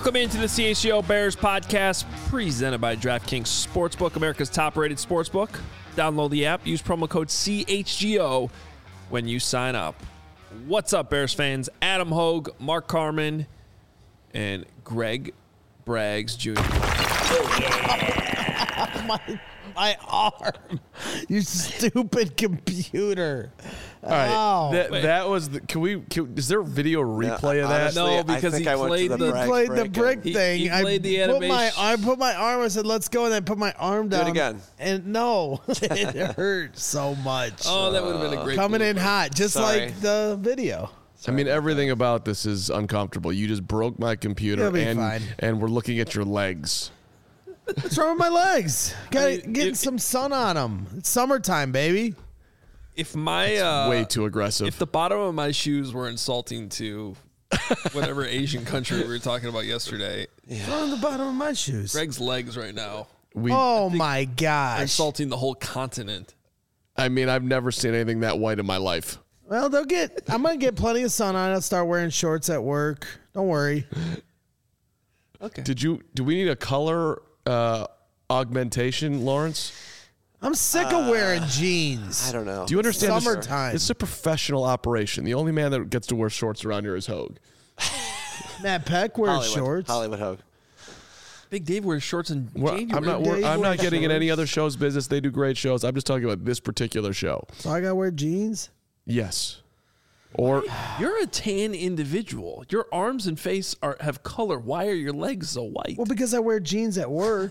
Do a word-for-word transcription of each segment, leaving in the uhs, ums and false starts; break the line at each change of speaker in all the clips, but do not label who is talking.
Welcome into the C H G O Bears podcast, presented by DraftKings Sportsbook, America's top-rated sportsbook. Download the app, use promo code C H G O when you sign up. What's up, Bears fans? Adam Hogue, Mark Carman, and Greg Braggs Junior
Oh, yeah. my, my arm. You stupid computer.
All right,
Oh.
that, that was. The, can we? Can, is there a video replay
Yeah,
of that?
honestly,
No, because
I think
he
I went
played
to
the-
the,
He
brag
played the
break
brick
and-
thing.
he played the
I put my
animation.
I put my arm. I said, "Let's go," and I put my arm down.
it again.
And no, it hurt so much.
Oh, that would have been a great
Coming in
blooper.
hot, just
Sorry.
like the video.
I mean, everything about this is uncomfortable. You just broke my computer,
It'll be
and
fine.
and we're looking at your legs.
What's wrong with my legs? Got to
I mean,
get
it-
some sun on them. It's summertime, baby.
If my uh,
Way too aggressive.
if the bottom of my shoes were insulting to whatever Asian country we were talking about yesterday,
What's wrong with the bottom of my shoes?
Greg's legs right now
we,
Oh my
are
gosh.
insulting the whole continent.
I mean, I've never seen anything that white in my life.
Well, they'll get. I'm gonna get plenty of sun on. I'll start wearing shorts at work. Don't worry.
Okay.
Did you? Do we need a color uh, augmentation, Lawrence?
I'm sick of wearing jeans.
I don't know.
Do you understand? this-
Summertime.
This is a professional operation. The only man that gets to wear shorts around here is Hogue.
Matt Peck wears
Hollywood,
shorts.
Hollywood Hogue.
Big Dave wears shorts in
Well,
January.
I'm not.
Dave
I'm not
wears
getting in any
shorts.
other show's business. They do great shows. I'm just talking about this particular show.
So I gotta wear jeans.
Yes. Or
You're a tan individual. Your arms and face are have color. Why are your legs so white?
Well, because I wear jeans at work.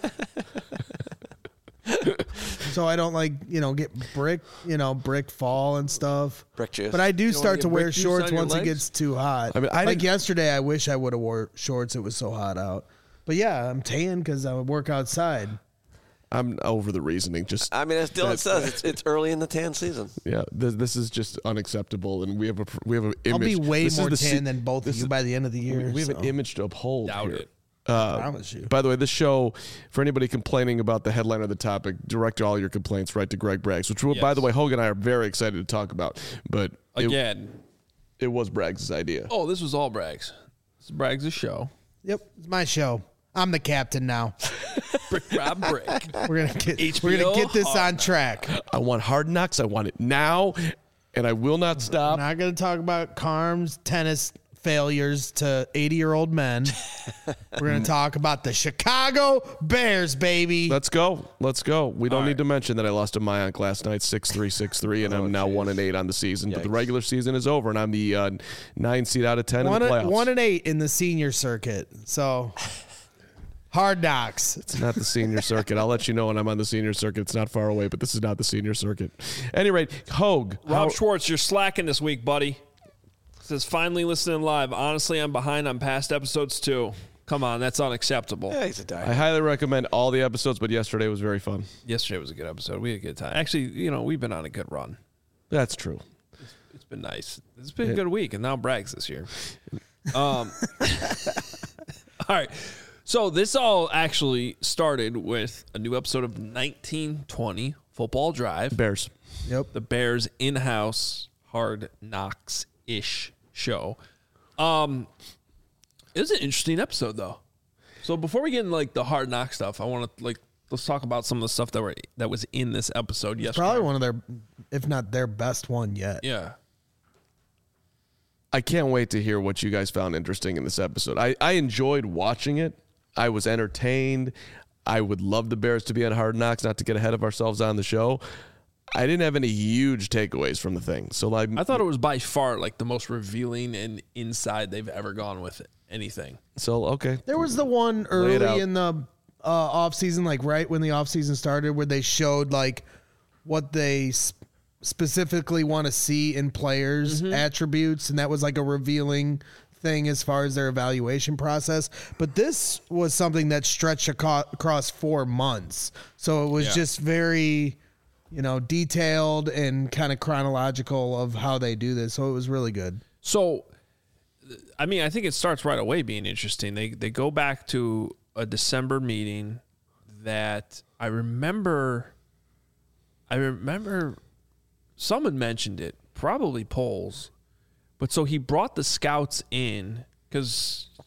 So I don't like, you know, get brick, you know, brick fall and stuff.
Brick juice.
But I do
wanna
start
get
to wear
brick juice
shorts
on your
once it
legs?
gets too hot.
I mean, I
like
didn't-
yesterday, I wish I would have wore shorts. It was so hot out. But yeah, I'm tan because I work outside.
I'm over the reasoning. Just
I mean, as Dylan
That's-
says, it's, it's early in the tan season.
yeah, this, this is just unacceptable, and we have a we have an image.
I'll be way
this is
more
tan
tan than both of
this
you
is-
by the end of the year.
We have
so.
an image to uphold.
Doubt
here.
it.
Uh,
I promise you.
By the way, this show, for anybody complaining about the headline or the topic, direct all your complaints right to Greg Braggs, which, by
Yes.
the way, Hogue and I are very excited to talk about. But it,
Again.
it was Braggs' idea.
Oh, this was all Braggs. This is Braggs' show.
Yep, it's my show. I'm the captain now.
Brick Rob Brick.
We're gonna get
H
we're
B O
gonna get this
Hard
on track.
I want Hard Knocks. I want it now, and I will not
I'm
stop.
not gonna talk about Carm's tennis failures to eighty-year-old men. We're gonna talk about the Chicago Bears, baby.
Let's go. Let's go. We don't
All
need
right.
to mention that I lost to Mayank last night, six three, six three, and I'm now one and eight on the season. But the
Yikes.
regular season is over, and I'm the uh, nine seed out of ten
one,
in the
and,
playoffs.
one and eight in the senior circuit. So hard knocks.
It's not the senior circuit. I'll let you know when I'm on the senior circuit. It's not far away, but this is not the senior circuit. At any rate, Hogue.
Rob
how-
Schwartz, you're slacking this week, buddy. Says, finally listening live. Honestly, I'm behind on past episodes, too. Come on, that's unacceptable.
Yeah, he's a
I
diet.
highly recommend all the episodes, but yesterday was very fun.
Yesterday was a good episode. We had a good time. Actually, you know, we've been on a good run.
That's true.
It's been nice. It's been a good week, and now Braggs this year. Um, all right. So this all actually started with a new episode of nineteen twenty Football Drive.
Bears.
Yep.
The Bears in-house Hard Knocks-ish show. Um, it was an interesting episode, though. So before we get into like the Hard Knock stuff, I want to like let's talk about some of the stuff that were that was in this episode yesterday.
Probably one of their, if not their best one yet.
Yeah.
I can't wait to hear what you guys found interesting in this episode. I, I enjoyed watching it. I was entertained. I would love the Bears to be on Hard Knocks, not to get ahead of ourselves on the show. I didn't have any huge takeaways from the thing. So like,
I thought it was by far like the most revealing and inside they've ever gone with anything.
so okay.
There was the one
it
early
out.
in the uh, off season, like right when the off season started, where they showed like what they sp- specifically want to see in players' attributes, and that was like a revealing thing as far as their evaluation process. But this was something that stretched aco- across four months, so it was
Yeah.
just very, you know, detailed and kind of chronological of how they do this. So it was really good.
So, I mean, I think it starts right away being interesting. They they go back to a December meeting that I remember. I remember someone mentioned it, probably Poles, but so he brought the scouts in because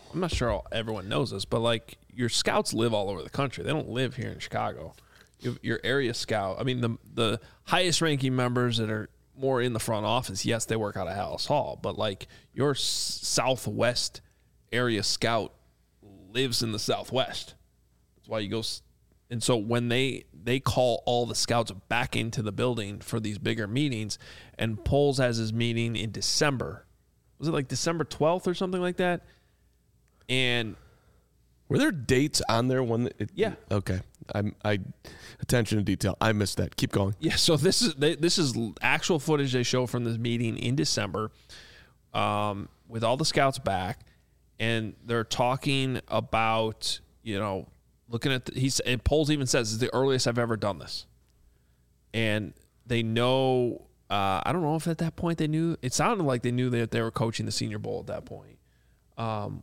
I'm not sure all, everyone knows this, but like your scouts live all over the country. They don't live here in Chicago. You, your area scout, I mean, the the highest ranking members that are more in the front office, yes, they work out of Hallis Hall, but like your s- Southwest area scout lives in the Southwest. That's why you go. S- and so when they they call all the scouts back into the building for these bigger meetings, and Poles has his meeting in December. Was it like December twelfth or something like that? And
were there dates on there when it,
yeah.
Okay. I'm I attention to detail. I missed that. Keep going.
Yeah, so this is they, this is actual footage they show from this meeting in December, um, with all the scouts back, and they're talking about, you know, looking at the, he's and Poles even says it's the earliest I've ever done this, and they know. Uh, I don't know if at that point they knew. It sounded like they knew that they were coaching the Senior Bowl at that point, um,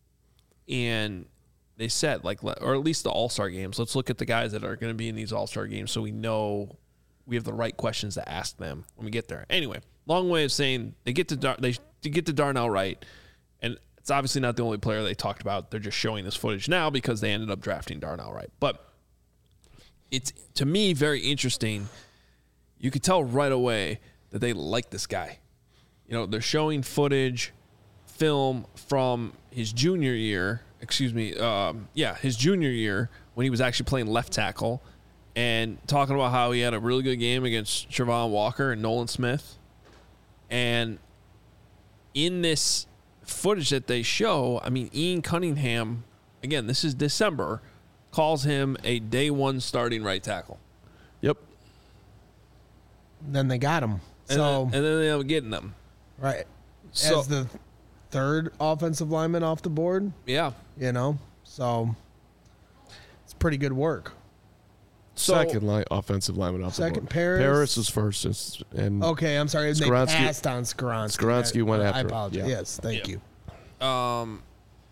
and. They said, like, or at least the All-Star games. Let's look at the guys that are going to be in these All-Star games so we know we have the right questions to ask them when we get there. Anyway, long way of saying they get to Dar- they get to Darnell Wright, and it's obviously not the only player they talked about. They're just showing this footage now because they ended up drafting Darnell Wright. But it's, to me, very interesting. You could tell right away that they like this guy. You know, they're showing footage, film from his junior year. Excuse me, um, yeah, his junior year when he was actually playing left tackle, and talking about how he had a really good game against Travon Walker and Nolan Smith. And in this footage that they show, I mean, Ian Cunningham, again, this is December, calls him a day one starting right tackle.
Yep.
Then they got him.
And,
So
then, and then they end up getting them.
right
So,
as the third offensive lineman off the board,
yeah.
you know, so it's pretty good work.
So,
Second line, offensive lineman off
Second,
the board.
Paris.
Paris was first, and- and
Okay, I'm sorry. They
Skoronski-
passed on Skoronski.
Skoronski
I,
went
I
after him,
apologize.
yeah.
Yes, thank
Yeah.
you.
Um,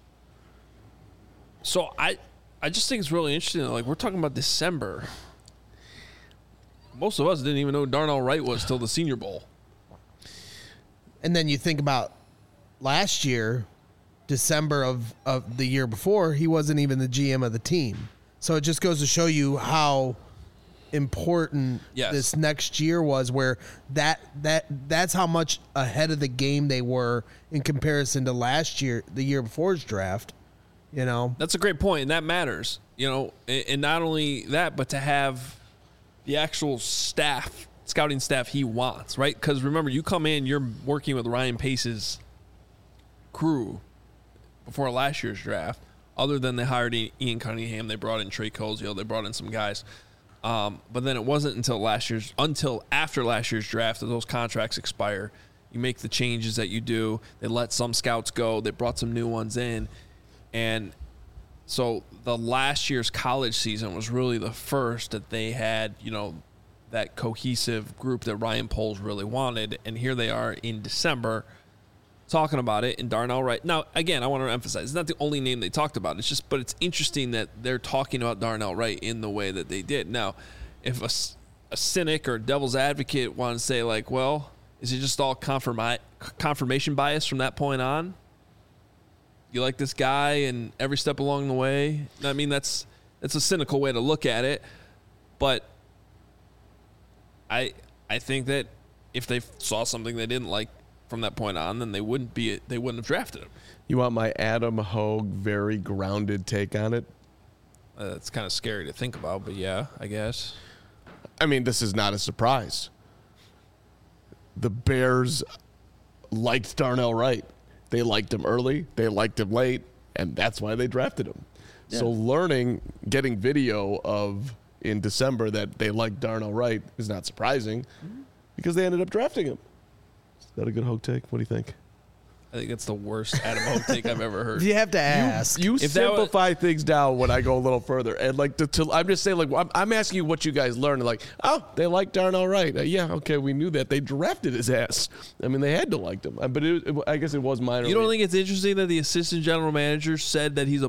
so I, I just think it's really interesting. Like, we're talking about December. Most of us didn't even know who Darnell Wright was till the Senior Bowl.
And then you think about last year, December of, of the year before, he wasn't even the G M of the team. So it just goes to show you how important
Yes.
this next year was, where that that that's how much ahead of the game they were in comparison to last year, the year before's draft. You know,
That's a great point, and that matters. You know, and, and not only that, but to have the actual staff, scouting staff he wants, right? Because remember, you come in, you're working with Ryan Pace's crew before last year's draft. Other than they hired Ian Cunningham, they brought in Trey Cozio, they brought in some guys. Um, but then it wasn't until last year's, until after last year's draft that those contracts expire. You make the changes that you do. They let some scouts go. They brought some new ones in. And so the last year's college season was really the first that they had, you know, that cohesive group that Ryan Poles really wanted. And here they are in December talking about it, and Darnell Wright. Now, again, I want to emphasize, it's not the only name they talked about. It's just, but it's interesting that they're talking about Darnell Wright in the way that they did. Now, if a, a cynic or devil's advocate want to say, like, well, is it just all confirmi- confirmation bias from that point on? You like this guy and every step along the way? I mean, that's that's a cynical way to look at it, but I I think that if they saw something they didn't like from that point on, then they wouldn't be they wouldn't have drafted him.
you want my Adam Hogue very grounded take on it?
Uh, it's kind of scary to think about, but yeah, I guess.
I mean, this is not a surprise. The Bears liked Darnell Wright. They liked him early, they liked him late, and that's why they drafted him. Yeah. So learning, getting video of in December that they liked Darnell Wright is not surprising mm-hmm. because they ended up drafting him. Is that a good Hogue take? What do you think?
I think it's the worst Adam Hogue take I've ever heard.
you have to ask.
You, you
If that
simplify was, things down when I go a little further, and like to, to, I'm just saying, like I'm, I'm asking you what you guys learned. Like, oh, they like Darnell Wright. Uh, yeah, okay, we knew that. They drafted his ass. I mean, they had to like him, but it, it, I guess it was minor.
You don't think it's interesting that the assistant general manager said that he's a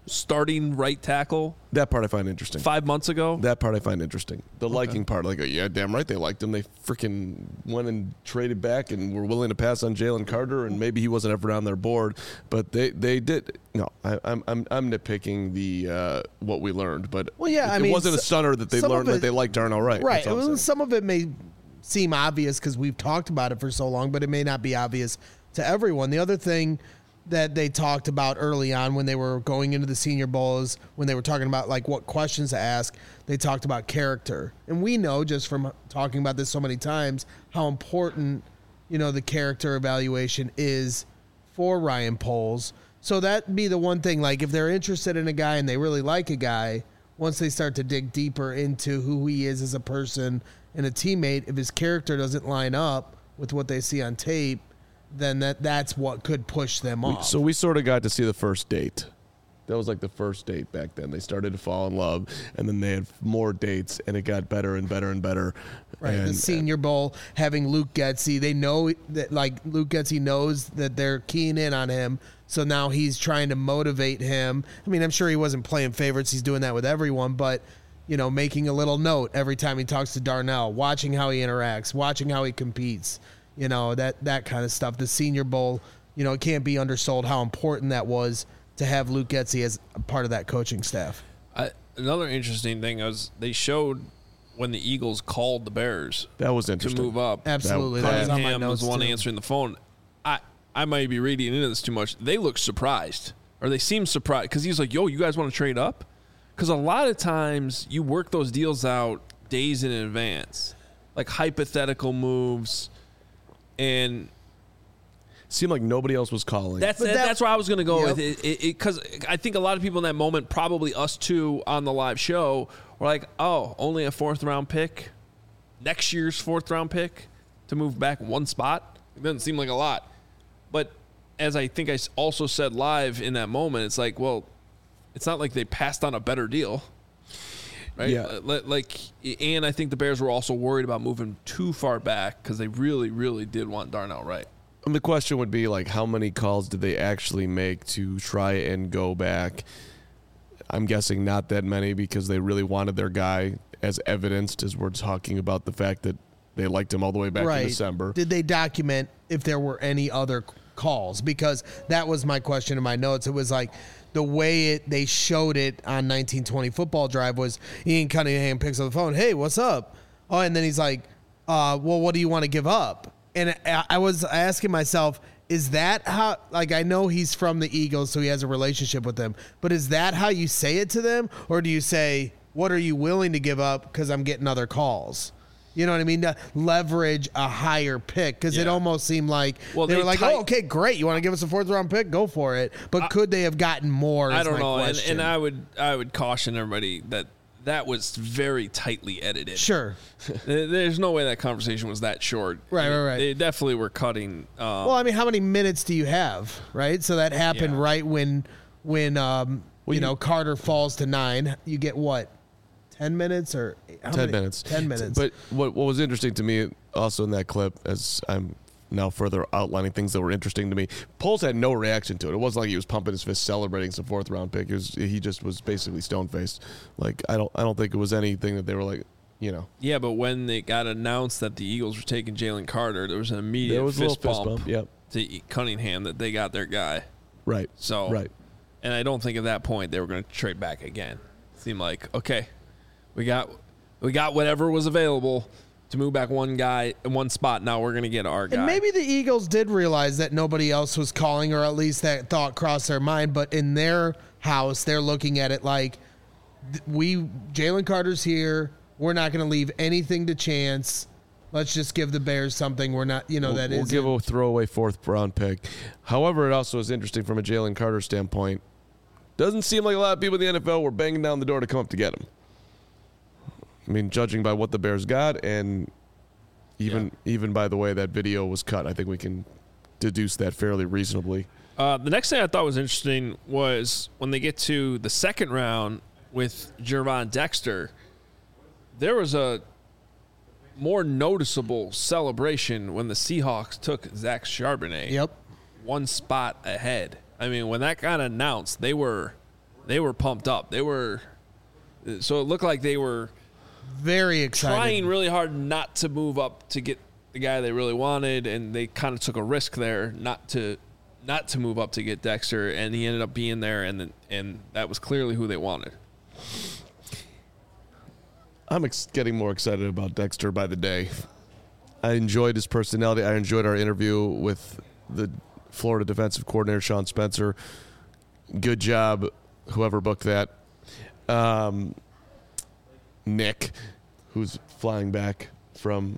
starting right tackle
That part I find interesting.
five months ago.
That part I find interesting. The liking part, like, yeah, damn right they liked him. They freaking went and traded back and were willing to pass on Jalen Carter, and maybe he wasn't ever on their board, but they, they did. No, I, I'm I'm I'm nitpicking the uh, what we learned, but
Well, yeah,
it,
I
it
mean,
wasn't a stunner that they
some of
learned
it-
that they liked Darnell Wright.
Right.
That's all I'm
Well,
saying.
some of it may seem obvious because we've talked about it for so long, but it may not be obvious to everyone. The other thing that they talked about early on when they were going into the Senior Bowl is when they were talking about like what questions to ask, they talked about character. And we know just from talking about this so many times how important, you know, the character evaluation is for Ryan Poles. So that'd be the one thing, like if they're interested in a guy and they really like a guy, once they start to dig deeper into who he is as a person and a teammate, if his character doesn't line up with what they see on tape, then that that's what could push them
We-
off.
So we sort of got to see the first date. That was like the first date back then. They started to fall in love, and then they had more dates, and it got better and better and better.
Right,
and,
the Senior Bowl, having Luke Getsy, they know that like Luke Getsy knows that they're keying in on him, so now he's trying to motivate him. I mean, I'm sure he wasn't playing favorites; he's doing that with everyone, but you know, making a little note every time he talks to Darnell, watching how he interacts, watching how he competes, you know, that that kind of stuff. The Senior Bowl, you know, it can't be undersold how important that was to have Luke Getsy as a part of that coaching staff.
I, another interesting thing was they showed when the Eagles called the Bears
that was
to
interesting.
move up.
Absolutely, that was on my
Cunningham
notes
was the one
too.
answering the phone. I I might be reading into this too much. They look surprised, or they seem surprised because he's like, "Yo, you guys want to trade up?" Because a lot of times you work those deals out days in advance, like hypothetical moves, and
Seemed like nobody else was calling.
that's
But
that,
that-
that's where I was going to go
Yep.
with it. Because I think a lot of people in that moment, probably us too on the live show, were like, "Oh, only a fourth round pick, next year's fourth round pick to move back one spot." It doesn't seem like a lot, but as I think I s- also said live in that moment, it's like, well, it's not like they passed on a better deal, right?
Yeah.
Uh, li- Like, and I think the Bears were also worried about moving too far back because they really, really did want Darnell Wright.
And the question would be like, how many calls did they actually make to try and go back? I'm guessing not that many because they really wanted their guy, as evidenced as we're talking about the fact that they liked him all the way back in December.
Did they document if there were any other c- calls? Because that was my question in my notes. It was like the way it they showed it on nineteen twenty Football Drive was Ian Cunningham picks up the phone. Hey, what's up? Oh, and then he's like, uh, well, what do you want to give up? And I, I was asking myself, is that how, like, I know he's from the Eagles, so he has a relationship with them, but is that how you say it to them? Or do you say, what are you willing to give up because I'm getting other calls? You know what I mean? To leverage a higher pick, because it
Yeah.
almost seemed like
Well,
they,
they
were like,
tight-
oh, okay, great. You want to give us a fourth round pick? Go for it. But could they have gotten more?
I
is
don't
my
know, and,
question.
and I would I would caution everybody that that was very tightly edited.
Sure.
There- There's no way that conversation was that short.
Right, right, right.
They definitely were cutting. Um,
Well, I mean, how many minutes do you have, right? So that happened
Yeah.
right when, when um,
Well,
you
you-
know, Carter falls to nine. You get what, ten minutes or how
ten
many-
minutes.
Ten minutes.
But what what was interesting to me also in that clip, as I'm now further outlining things that were interesting to me, Poles had no reaction to it. It wasn't like he was pumping his fist celebrating some fourth round pick. It was, he just was basically stone faced. Like I don't I don't think it was anything that they were like, you know.
yeah, but when it got announced that the Eagles were taking Jalen Carter, there was an immediate
There was a
fist,
little fist
bump
bump. Yep.
to Cunningham that they got their guy.
Right.
So
Right.
and I don't think at that point they were going to trade back again. It seemed like, okay, we got we got whatever was available to move back one guy in one spot. Now we're going to get our guy.
And maybe the Eagles did realize that nobody else was calling, or at least that thought crossed their mind. But in their house, they're looking at it like, th- we Jalen Carter's here. We're not going to leave anything to chance. Let's just give the Bears something. We're not, you know,
We'll,
that
we'll
is
give a throwaway fourth round pick. However, it also is interesting from a Jalen Carter standpoint. Doesn't seem like a lot of people in the N F L were banging down the door to come up to get him. I mean, judging by what the Bears got, and even even by the way that video was cut, I think we can deduce that fairly reasonably.
Uh, the next thing I thought was interesting was when they get to the second round with Gervon Dexter, there was a more noticeable celebration when the Seahawks took Zach Charbonnet
Yep.
one spot ahead. I mean, when that got announced, they were they were pumped up. They were, so it looked like they were
very excited,
trying really hard not to move up to get the guy they really wanted, and they kind of took a risk there not to not to move up to get Dexter, and he ended up being there, and then, and that was clearly who they wanted.
I'm ex- getting more excited about Dexter by the day. I enjoyed his personality. I enjoyed our interview with the Florida defensive coordinator, Sean Spencer. Good job, whoever booked that. Um, Nick, who's flying back from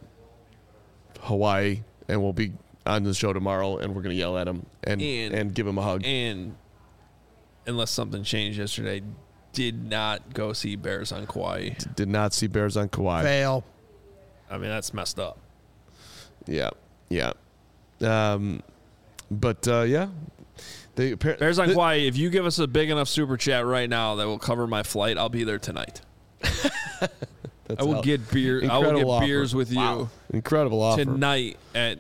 Hawaii and will be on the show tomorrow, and we're going to yell at him and, and and give him a hug.
And unless something changed yesterday, did not go see Bears on Kauai.
Did not see Bears on Kauai.
Fail.
I mean, that's messed up.
Yeah, yeah. Um, but, uh, yeah. They,
Bears on
the,
Kauai, if you give us a big enough super chat right now that will cover my flight, I'll be there tonight. I will get beer. I will get
offer.
beers with you.
Wow. Incredible offer.
Tonight at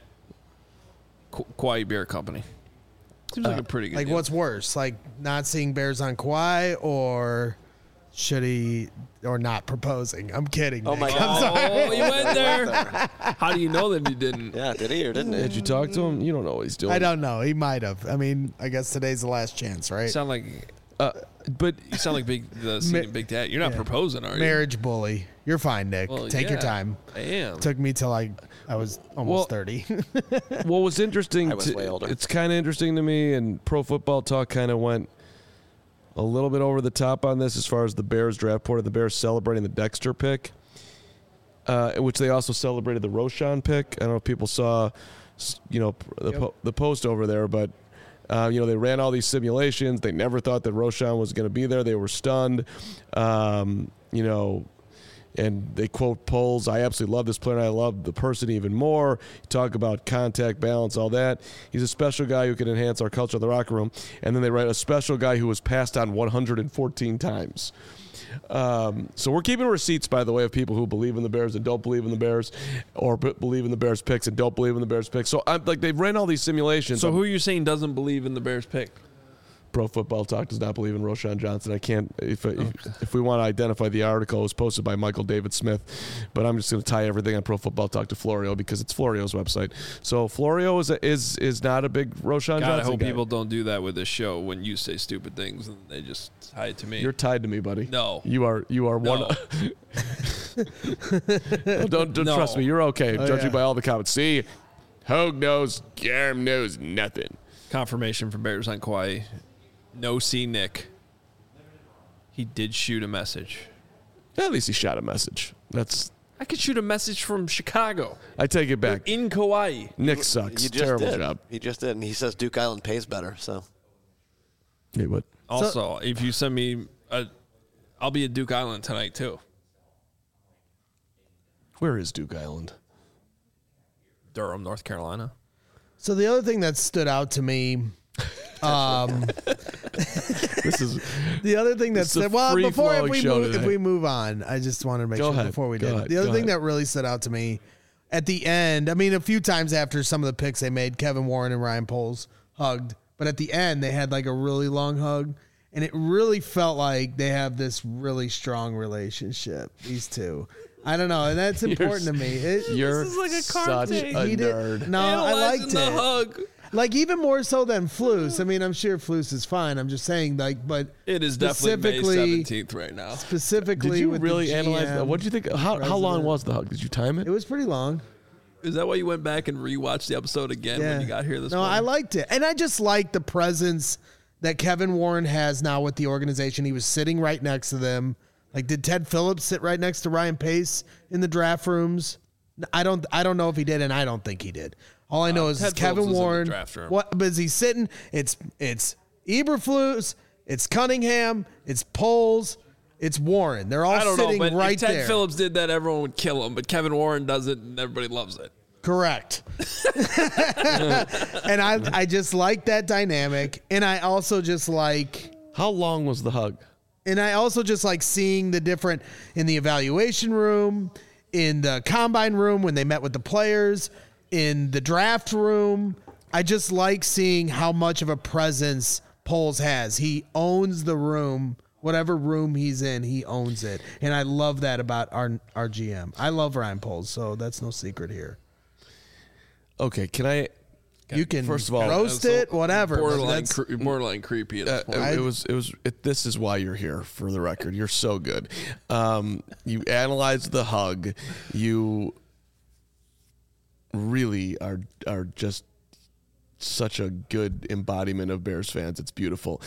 Kauai Beer Company. Seems like
uh,
a pretty good
Like,
deal.
what's worse? Like, not seeing Bears on Kauai, or should he, or not proposing? I'm kidding.
Oh,
Nick.
my
I'm
God.
sorry.
Oh, you went there. How do you know that he didn't?
Yeah, did he or didn't he?
Did you talk to him? You don't know what he's doing.
I don't know. He might have. I mean, I guess today's the last chance, right?
You sound like,
Uh, but
you sound like big, the senior Big Dad. You're not
yeah.
proposing, are you?
Marriage bully. You're fine, Nick.
Well,
Take your
yeah,
time.
I am.
Took me till I, I was almost
Well-
thirty.
what was interesting,
I was
to,
way older.
it's kind of interesting to me, and Pro Football Talk kind of went a little bit over the top on this as far as the Bears draft board, the Bears celebrating the Dexter pick, uh, which they also celebrated the Roschon pick. I don't know if people saw, you know, the,
Yep.
po- the post over there, but uh, you know, they ran all these simulations. They never thought that Roschon was going to be there. They were stunned. Um, you know, and they quote polls. I absolutely love this player, and I love the person even more. Talk about contact, balance, all that. He's a special guy who can enhance our culture in the locker room. And then they write a special guy who was passed on one hundred fourteen times. Um, so we're keeping receipts, by the way, of people who believe in the Bears and don't believe in the Bears, or b- believe in the Bears picks and don't believe in the Bears picks. So I'm like, they've ran all these simulations.
So who are you saying doesn't believe in the Bears pick?
Pro Football Talk does not believe in Roschon Johnson. I can't, if if, if we want to identify the article, it was posted by Michael David Smith, but I'm just going to tie everything on Pro Football Talk to Florio because it's Florio's website. So Florio is a, is is not a big Roschon
God,
Johnson
I hope
guy.
people don't do that with this show when you say stupid things and they just tie it to me.
You're tied to me, buddy.
No.
you are you are
No.
one. don't don't
No.
trust me. You're okay,
Oh,
judging
yeah.
by all the comments. See, Hogue knows, Garm knows nothing.
Confirmation from Bears on Kauai. No see Nick. He did shoot a message.
At least he shot a message. That's.
I could shoot a message from Chicago.
I take it back.
In Kauai.
Nick sucks.
You just
Terrible
did.
job.
He just did, and he says Duke Island pays better. So
Hey, what?
Also, if you send me a, I'll be at Duke Island tonight too.
Where is Duke Island?
Durham, North Carolina.
So the other thing that stood out to me, um,
This is
the other thing that
It's a
stood, well, before if
free-flowing
we
show
move, if
today.
we move on, I just wanted to make
Go
sure
ahead.
before we
Go
did.
ahead.
The other
Go
thing
ahead.
that really stood out to me at the end, I mean, a few times after some of the picks they made, Kevin Warren and Ryan Poles hugged, but at the end they had like a really long hug, and it really felt like they have this really strong relationship. These two. I don't know, and that's important to me. It,
You're
is like a
such
cartoon.
a
he did-
nerd.
No, I
Analyzing
liked
the
it.
hug.
Like even more so than Flus. I mean, I'm sure Flus is fine. I'm just saying, like, but
It is definitely May
specifically-
seventeenth right now.
specifically,
Did you
with
really
the
analyze
G M,
that? What did you think? How, how long
president.
was the hug? Did you time it?
It was pretty long.
Is that why you went back and rewatched the episode again
Yeah.
when you got here this
no,
morning?
I liked it, and I just like the presence that Kevin Warren has now with the organization. He was sitting right next to them. Like, did Ted Phillips sit right next to Ryan Pace in the draft rooms? I don't. I don't know if he did, and I don't think he did. All I know is
Ted
it's Kevin
Phillips was in the
Warren.
draft room.
What? But is he sitting? It's it's Eberflus, it's Cunningham, it's Poles, it's Warren. They're all
I don't know,
sitting
but
right
if Ted
there.
Phillips did that, everyone would kill him. But Kevin Warren does it, and everybody loves it.
Correct. And I I just like that dynamic, and I also just like.
How long was the hug?
And I also just like seeing the different in the evaluation room, in the combine room when they met with the players, in the draft room. I just like seeing how much of a presence Poles has. He owns the room. Whatever room he's in, he owns it. And I love that about our our G M. I love Ryan Poles, so that's no secret here.
Okay, can I?
You can
First of all,
roast it, whatever. but
Borderline,
that's-
cre- borderline creepy at this
Uh,
point.
it, it was. It was. It, this is why you're here. For the record, you're so good. Um, you analyze the hug. You really are are just such a good embodiment of Bears fans. It's beautiful.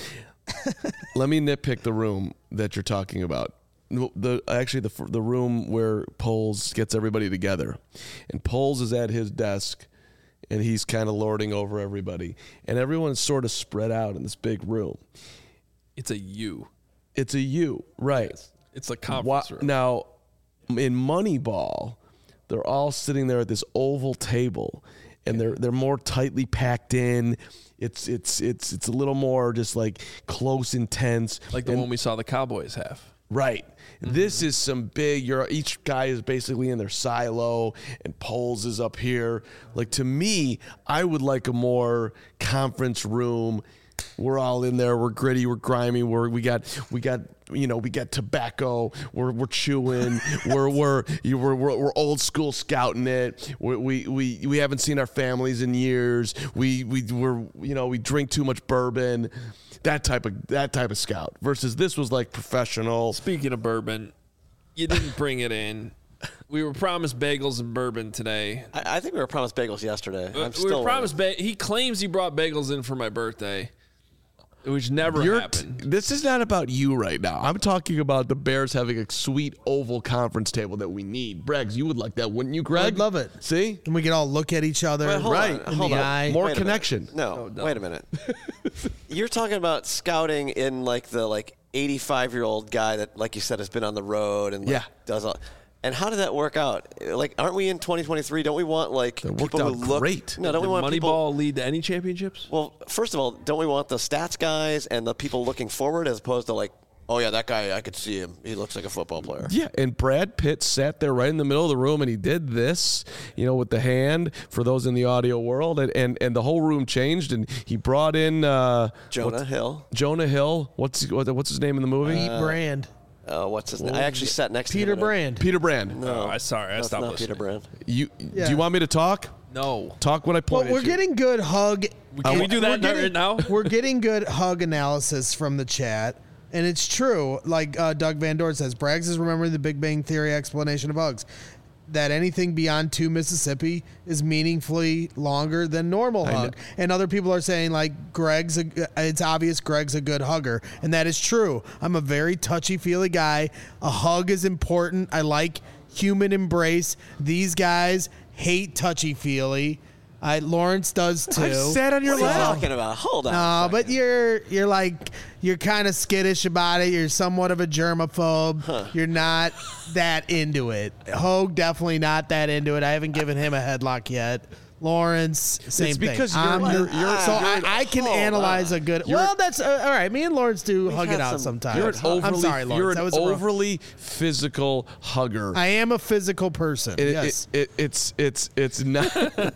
Let me nitpick the room that you're talking about. The actually the the room where Poles gets everybody together, and Poles is at his desk, and he's kind of lording over everybody, and everyone's sort of spread out in this big room.
It's a U.
It's a U, right?
It's a conference
Wha-
room.
Now, in Moneyball, they're all sitting there at this oval table, and they're they're more tightly packed in. It's it's it's it's a little more just like close, intense,
Like the
and,
one we saw the Cowboys have.
right. This is some big. You're each guy is basically in their silo, and Poles is up here. Like to me, I would like a more conference room. We're all in there. We're gritty. We're grimy. We're we got we got you know we got tobacco. We're we're chewing. we're we're you- we're we're we're old school scouting it. We we we we haven't seen our families in years. We we we're you know we drink too much bourbon. That type of that type of scout versus this was like professional.
Speaking of bourbon, you didn't bring it in. We were promised bagels and bourbon today.
I, I think we were promised bagels yesterday. I'm
we
still
were promised. Ba- he claims he brought bagels in for my birthday, which never
You're-
happened.
This is not about you right now. I'm talking about the Bears having a sweet oval conference table that we need. Braggs, you would like that, wouldn't you, Greg?
I'd love it.
See?
And we can all look at each other
Wait, hold
right
on,
in
hold
the
on.
eye.
More
Wait a minute.
connection.
No,
no.
wait a minute. You're talking about scouting in like the like eighty-five year old guy that, like you said, has been on the road and like,
Yeah.
does all. And how did that work out? Like, aren't we in twenty twenty-three? Don't we want like
That worked
people
out
who look
great.
No, don't
Did
we want people?
Moneyball lead to any championships?
Well, first of all, don't we want the stats guys and the people looking forward as opposed to like, oh yeah, that guy, I could see him. He looks like a football player.
Yeah, and Brad Pitt sat there right in the middle of the room, and he did this, you know, with the hand for those in the audio world, and and, and the whole room changed, and he brought in uh,
Jonah
what's-
Hill.
Jonah Hill. What's what, what's his name in the movie?
Pete Brand.
Uh, what's his name? I actually sat next
Peter
to him.
Brand.
Peter Brand.
No,
Oh, I sorry, I
that's
stopped
not
listening.
Peter Brand.
You
Yeah.
do you want me to talk?
No.
Talk when I
Well,
point
we're
at you.
getting good hug.
Can we do
we're
that
getting-
right now?
We're getting good hug analysis from the chat. And it's true, like uh, Doug Van Dorn says, Braggs is remembering the Big Bang Theory explanation of hugs. That anything beyond two Mississippi is meaningfully longer than normal
I
hug.
know.
And other people are saying, like, Greg's, a, it's obvious Greg's a good hugger. And that is true. I'm a very touchy-feely guy. A hug is important. I like human embrace. These guys hate touchy-feely. I, Lawrence does too.
I sat on your
What are you
lap.
talking about? Hold on. a
No,
second.
but you're you're like you're kind of skittish about it. You're somewhat of a germaphobe. You're not that into it. Hogue definitely not that into it. I haven't given him a headlock yet. Lawrence, same
It's
thing.
because you're-
I'm-
you're- you're-
so
you're
I,
an-
I can
hold
analyze
on.
a good.
You're-
Well, that's uh, all right. Me and Lawrence do hug
had
it out
some-
sometimes.
You're an overly,
I'm sorry, Lawrence.
you're
that
an
was a rough-
overly physical hugger.
I am a physical person.
It-
yes.
it, it, it's it's it's not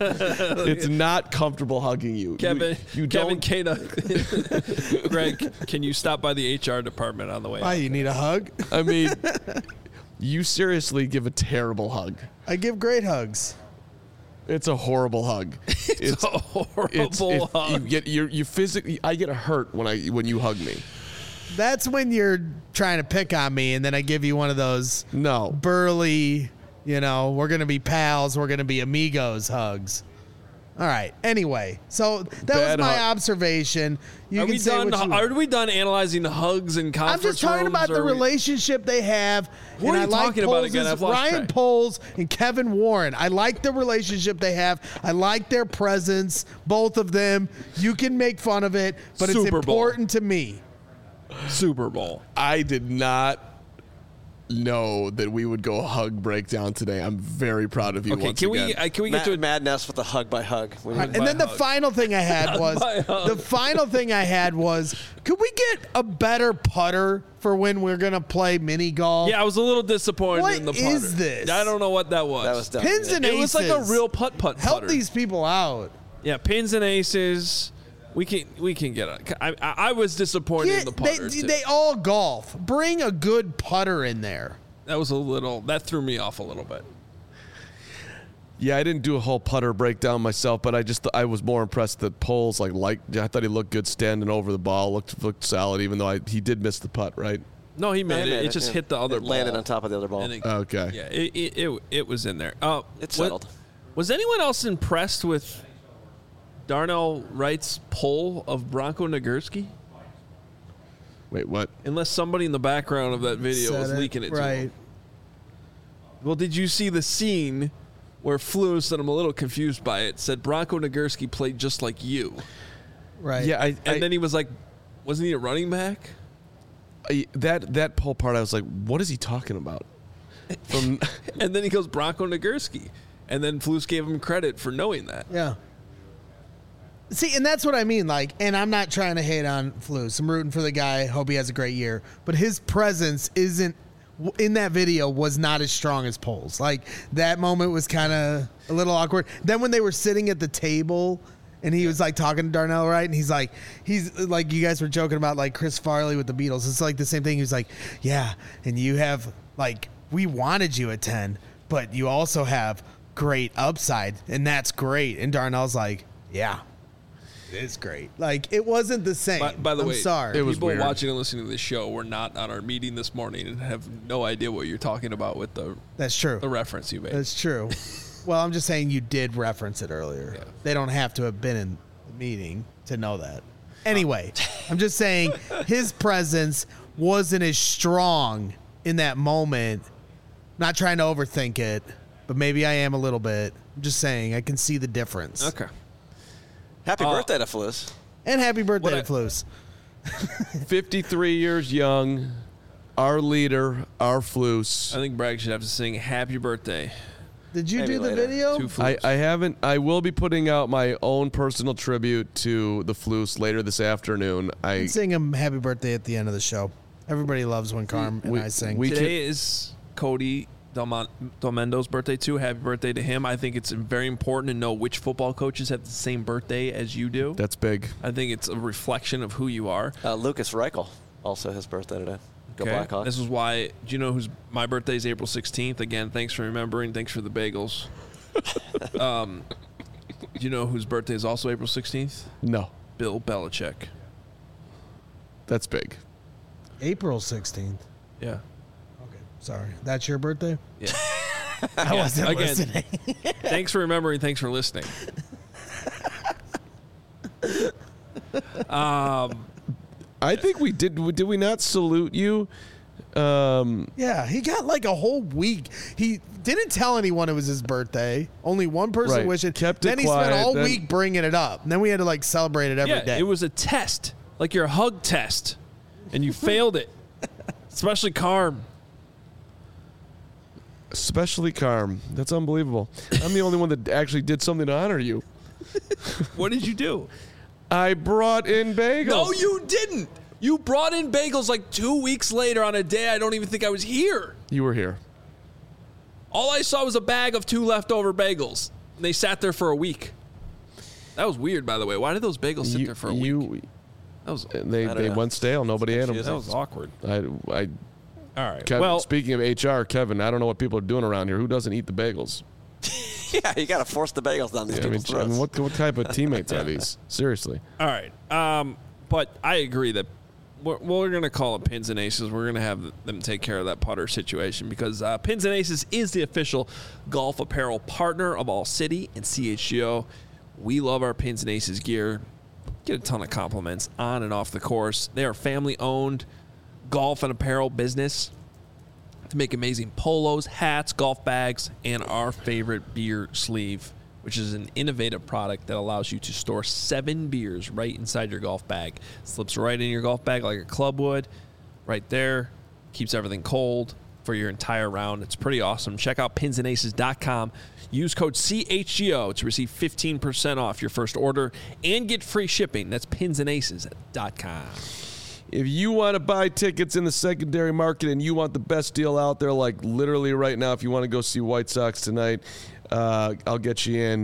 it's not comfortable hugging you.
Kevin,
you, you
Kevin
don't.
Kana. Greg, can you stop by the H R department on the way
Why
out?
you need a hug?
I mean, you seriously give a terrible hug.
I give great hugs.
It's a horrible hug.
It's a horrible
it's- it-
hug.
You get you you physically. I get hurt when I when you hug me.
That's when you're trying to pick on me, and then I give you one of those
No,
burly, you know, we're going to be pals, we're going to be amigos hugs. All right. Anyway, so that
Bad
was my
hug.
observation. You
Are
can
we
say
done?
what you
Are we done analyzing hugs and
I'm
conference
just talking
rooms,
about
or
the
are we-
relationship they have.
What
and
are
I
you
like
talking about again?
Poles's-
I've lost
Ryan
track.
Poles and Kevin Warren. I like the relationship they have. I like their presence, both of them. You can make fun of it, but it's
Super Bowl.
important to me.
Super Bowl?
I did not know that we would go hug breakdown today. I'm very proud of you.
Okay,
once
can we
again.
uh, can we get
Mad,
to a
Mad Ness with the hug by hug. We need-
And then the
hug.
final thing I had was
by hug.
the final thing I had was could we get a better putter for when we're gonna play mini golf?
Yeah, I was a little disappointed
What
in the putter.
is this?
I don't know what that was.
that was dumb.
Pins and
It
aces.
was like a real putt putt
Help
putter.
these people out.
Yeah, pins and aces. We can we can get on. I, I, I was disappointed
Get-
in the putter.
they,
too.
they all golf. Bring a good putter in there.
that was a little. That threw me off a little bit.
Yeah, I didn't do a whole putter breakdown myself, but I just I was more impressed that Poles like like I thought he looked good standing over the ball, looked looked solid, even though I, he did miss the putt, right?
No, he made
Yeah,
it.
he made
It
it,
just
yeah.
hit the other
It
ball.
landed on top of the other ball.
And it-
Okay.
Yeah, it it, it it was in there. Uh,
It's
what-
settled.
Was anyone else impressed with Darnell Wright's pull of Bronco Nagurski?
Wait, what?
Unless somebody in the background of that video
Said
was
it,
leaking it to
right.
him. Well, did you see the scene where Flus, and I'm a little confused by it, said Bronco Nagurski played just like you?
Right.
Yeah, I,
And
I
then he was like, wasn't he a running back?
I, that that poll part, I was like, what is he talking about? From
And then he goes, Bronco Nagurski. And then Flus gave him credit for knowing that.
Yeah. See, and that's what I mean. Like, and I'm not trying to hate on Flus. I'm rooting for the guy. Hope he has a great year. But his presence isn't in that video was not as strong as Poles. Like that moment was kind of a little awkward. Then when they were sitting at the table and he was like talking to Darnell Wright, and he's like, he's like, you guys were joking about like Chris Farley with the Beatles. It's like the same thing. He was like, yeah, and you have like we wanted you at ten, but you also have great upside, and that's great. And Darnell's like, yeah. It's great. Like it wasn't the same.
By, by the
I'm
way,
sorry.
It was
people
weird.
watching and listening to this show were not on our meeting this morning and have no idea what you're talking about with the
That's true.
the reference you made.
That's true. Well, I'm just saying you did reference it earlier.
Yeah.
They don't have to have been in the meeting to know that. Anyway, I'm just saying his presence wasn't as strong in that moment. Not trying to overthink it, but maybe I am a little bit. I'm just saying I can see the difference.
Okay.
Happy
Uh,
birthday to Flus.
And happy birthday,
What I-
Flus.
fifty-three years young, our leader, our
I
Flus.
think Bragg should have to sing happy birthday
Did you
Maybe
do the
later.
video?
to
I,
Flus.
I haven't. I will be putting out my own personal tribute to the Flus later this afternoon. I
Sing him happy birthday at the end of the show. Everybody loves when Carm and
We-
I sing.
we-
Today is Cody Delmon- Delmendo's birthday too. Happy birthday to him. I think it's very important to know which football coaches have the same birthday as you do.
that's big.
I think it's a reflection of who you are.
Uh, Lucas Reichel, also his birthday today. Go
Okay?
Blackhawks.
This is why. Do you know who's my birthday is April sixteenth? Again, thanks for remembering. Thanks for the bagels. um, do you know whose birthday is also April sixteenth?
No,
Bill Belichick.
that's big.
April sixteenth.
Yeah.
Okay, sorry. That's your birthday?
Yeah.
I wasn't
Again.
listening.
Thanks for remembering. Thanks for listening. Um,
I think we did. Did we not salute you? Um,
Yeah, he got like a whole week. He didn't tell anyone it was his birthday. Only one person
Right.
wished it.
Kept it
then he
quiet,
spent all
then-
week bringing it up. And then we had to like celebrate it every day.
yeah, it was a test, like your hug test, and you failed it. Especially Carm.
especially Carm. That's unbelievable. I'm the only one that actually did something to honor you.
What did you do?
I brought in bagels.
No, you didn't. You brought in bagels like two weeks later on a day I don't even think I was here.
You were here.
All I saw was a bag of two leftover bagels. And they sat there for a week. That was weird, by the way. Why did those bagels sit
You,
there for a
you,
week? That was
They
I don't
they
know.
went stale. Nobody ate them.
confusing.
that was awkward.
I, I,
All right.
Kevin,
well,
speaking of H R, Kevin, I don't know what people are doing around here. Who doesn't eat the bagels?
Yeah, you got to force the bagels down these
I mean,
people's
I mean,
throats.
what what type of teammates are these? Seriously.
all right. Um, but I agree that we're, we're going to call it Pins and Aces. We're going to have them take care of that putter situation because uh, Pins and Aces is the official golf apparel partner of All City and C H G O. We love our Pins and Aces gear. Get a ton of compliments on and off the course. They are family-owned golf and apparel business to make amazing polos, hats, golf bags, and our favorite beer sleeve, which is an innovative product that allows you to store seven beers right inside your golf bag. Slips right in your golf bag like a club would, right there. Keeps everything cold for your entire round. It's pretty awesome. Check out pins and aces dot com. Use code C H G O to receive fifteen percent off your first order and get free shipping. That's pins and aces dot com.
If you want to buy tickets in the secondary market and you want the best deal out there, like literally right now, if you want to go see White Sox tonight, uh, I'll get you in.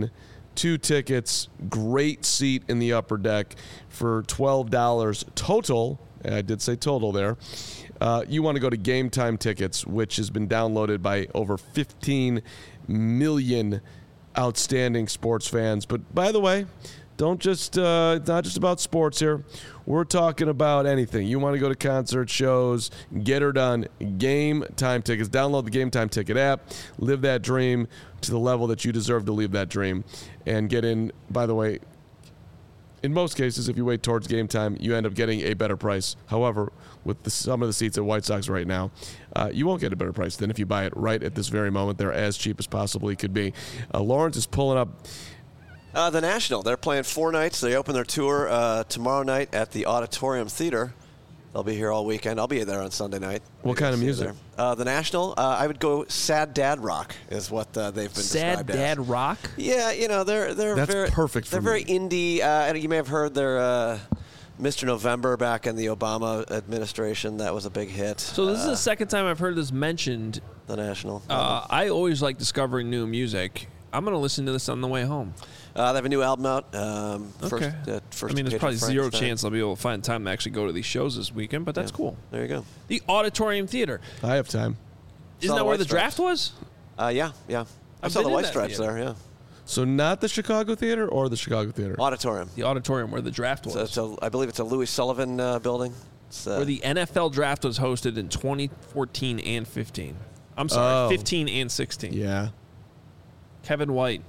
two tickets, great seat in the upper deck for twelve dollars total. I did say total there. Uh, you want to go to Game Time Tickets, which has been downloaded by over fifteen million outstanding sports fans. But by the way, don't just uh, it's not just about sports here. We're talking about anything. You want to go to concert shows, get her done. Game Time Tickets. Download the Game Time Ticket app. Live that dream to the level that you deserve to live that dream. And get in, by the way, in most cases, if you wait towards game time, you end up getting a better price. However, with the, some of the seats at White Sox right now, uh, you won't get a better price than if you buy it right at this very moment. They're as cheap as possibly could be. Uh, Lawrence is pulling up.
Uh, the National, they're playing four nights. They open their tour uh, tomorrow night at the Auditorium Theater. They'll be here all weekend. I'll be there on Sunday night.
What kind of music?
Uh, the National, uh, I would go sad dad rock is what uh, they've been
Sad
described
dad
as.
rock?
Yeah, you know, they're they're
That's
very
perfect for
They're very
me.
indie. Uh, you may have heard their uh, Mister November back in the Obama administration. That was a big hit.
So this is
uh,
the second time I've heard this mentioned.
the National.
Uh, I always like discovering new music. I'm going to listen to this on the way home.
Uh, they have a new album out. Um, first,
Okay.
uh, first
I mean, there's
Page
probably
of
zero
Frankenstein.
chance I'll be able to find time to actually go to these shows this weekend, but that's
Yeah.
cool.
There you go.
The Auditorium Theater.
I have time.
Isn't
Saw
that
the
where
White
the
Stripes.
draft was?
Uh, yeah, yeah. I
I've
saw
been
the
in
White
that
Stripes
theater.
there. Yeah.
So not the Chicago Theater or the Chicago Theater?
Auditorium.
The auditorium where the draft was.
So it's a, I believe it's a Louis Sullivan uh, building. It's, uh,
where the N F L draft was hosted in twenty fourteen and fifteen. I'm sorry,
Oh.
fifteen and sixteen.
Yeah.
Kevin White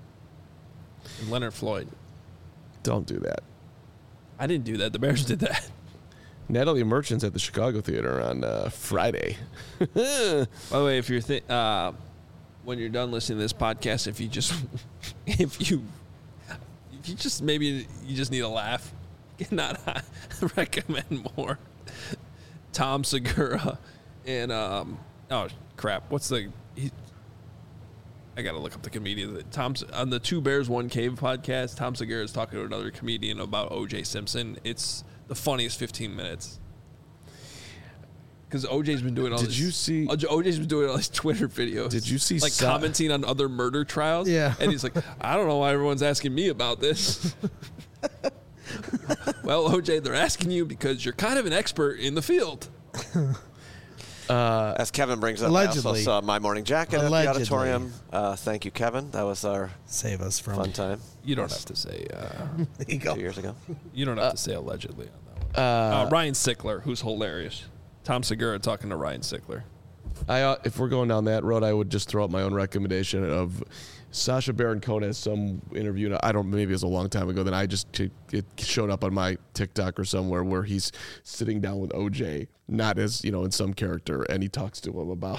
and Leonard Floyd.
Don't do that.
I didn't do that. The Bears did that.
Natalie Merchant's at the Chicago Theater on uh, Friday.
By the way, if you're th- uh, when you're done listening to this podcast, if you just if you if you just maybe you just need a laugh, cannot recommend more. Tom Segura and um oh crap, what's the he, I gotta look up the comedian. Tom on the Two Bears One Cave podcast. Tom Segura is talking to another comedian about O J Simpson. It's the funniest fifteen minutes. Because O J's been doing all
Did
this.
you see-
O J's been doing all these Twitter videos.
Did you see
like
Sa-
commenting on other murder trials?
Yeah.
And he's like, I don't know why everyone's asking me about this. Well, O J, they're asking you because you're kind of an expert in the field.
As Kevin brings up, I
Allegedly.
also saw My Morning Jacket
Allegedly.
at the auditorium. Uh, thank you, Kevin. That was our
Save us from.
fun time
You don't have to say. Uh,
There you go.
two years ago.
you don't have to say allegedly on that one. Uh, Ryan Sickler, who's hilarious. Tom Segura talking to Ryan Sickler.
I, uh, if we're going down that road, I would just throw out my own recommendation of Sacha Baron Cohen has some interview. I don't. Maybe it was a long time ago. Then I just it showed up on my TikTok or somewhere where he's sitting down with O J, not as you know in some character, and he talks to him about.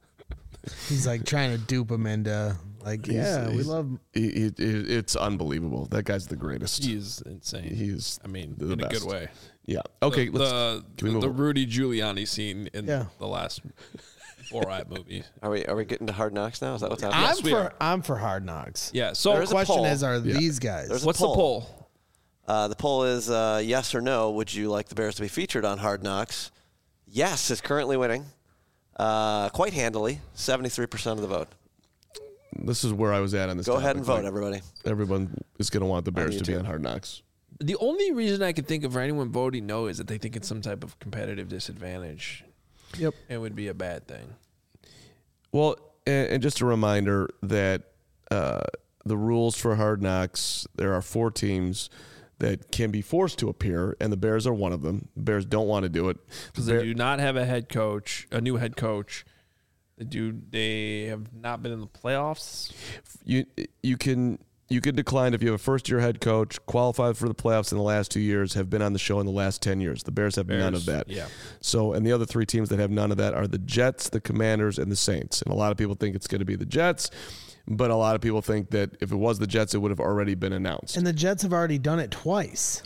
He's like trying to dupe him into like, yeah, we
he's-
love.
He, he, it's unbelievable. That guy's the greatest.
He's insane.
He's
I mean,
the
in a
best.
good way.
Yeah. Okay.
The,
let's,
the,
can we move
the
on?
Rudy Giuliani scene in
Yeah.
the last Borat movie.
Are we are we getting to Hard Knocks now? Is that what's happening?
I'm
we
for
are.
I'm for Hard Knocks.
Yeah. So
There
The
is a
question
poll.
is, are
Yeah.
these guys?
There's a
what's
poll.
the poll?
Uh, the poll is uh, yes or no. Would you like the Bears to be featured on Hard Knocks? Yes is currently winning, uh, quite handily, seventy-three percent of the vote.
This is where I was at on this.
Go ahead
topic.
and vote,
Like,
everybody.
Everyone is going to want the Bears to be
YouTube.
on Hard Knocks.
The only reason I can think of for anyone voting no is that they think it's some type of competitive disadvantage.
Yep.
It would be a bad thing.
Well, and, and just a reminder that uh, the rules for Hard Knocks, there are four teams that can be forced to appear, and the Bears are one of them. The Bears don't want to do it.
Because
The
they
Bear-
do not have a head coach, a new head coach. They do. They have not been in the playoffs.
you you can you can decline if you have a first year head coach, qualified for the playoffs in the last two years, have been on the show in the last ten years. The Bears have none of
Bears,
that.
yeah.
So, and the other three teams that have none of that are the Jets, the Commanders, and the Saints. And a lot of people think it's going to be the Jets, but a lot of people think that if it was the Jets, it would have already been announced.
And the Jets have already done it twice.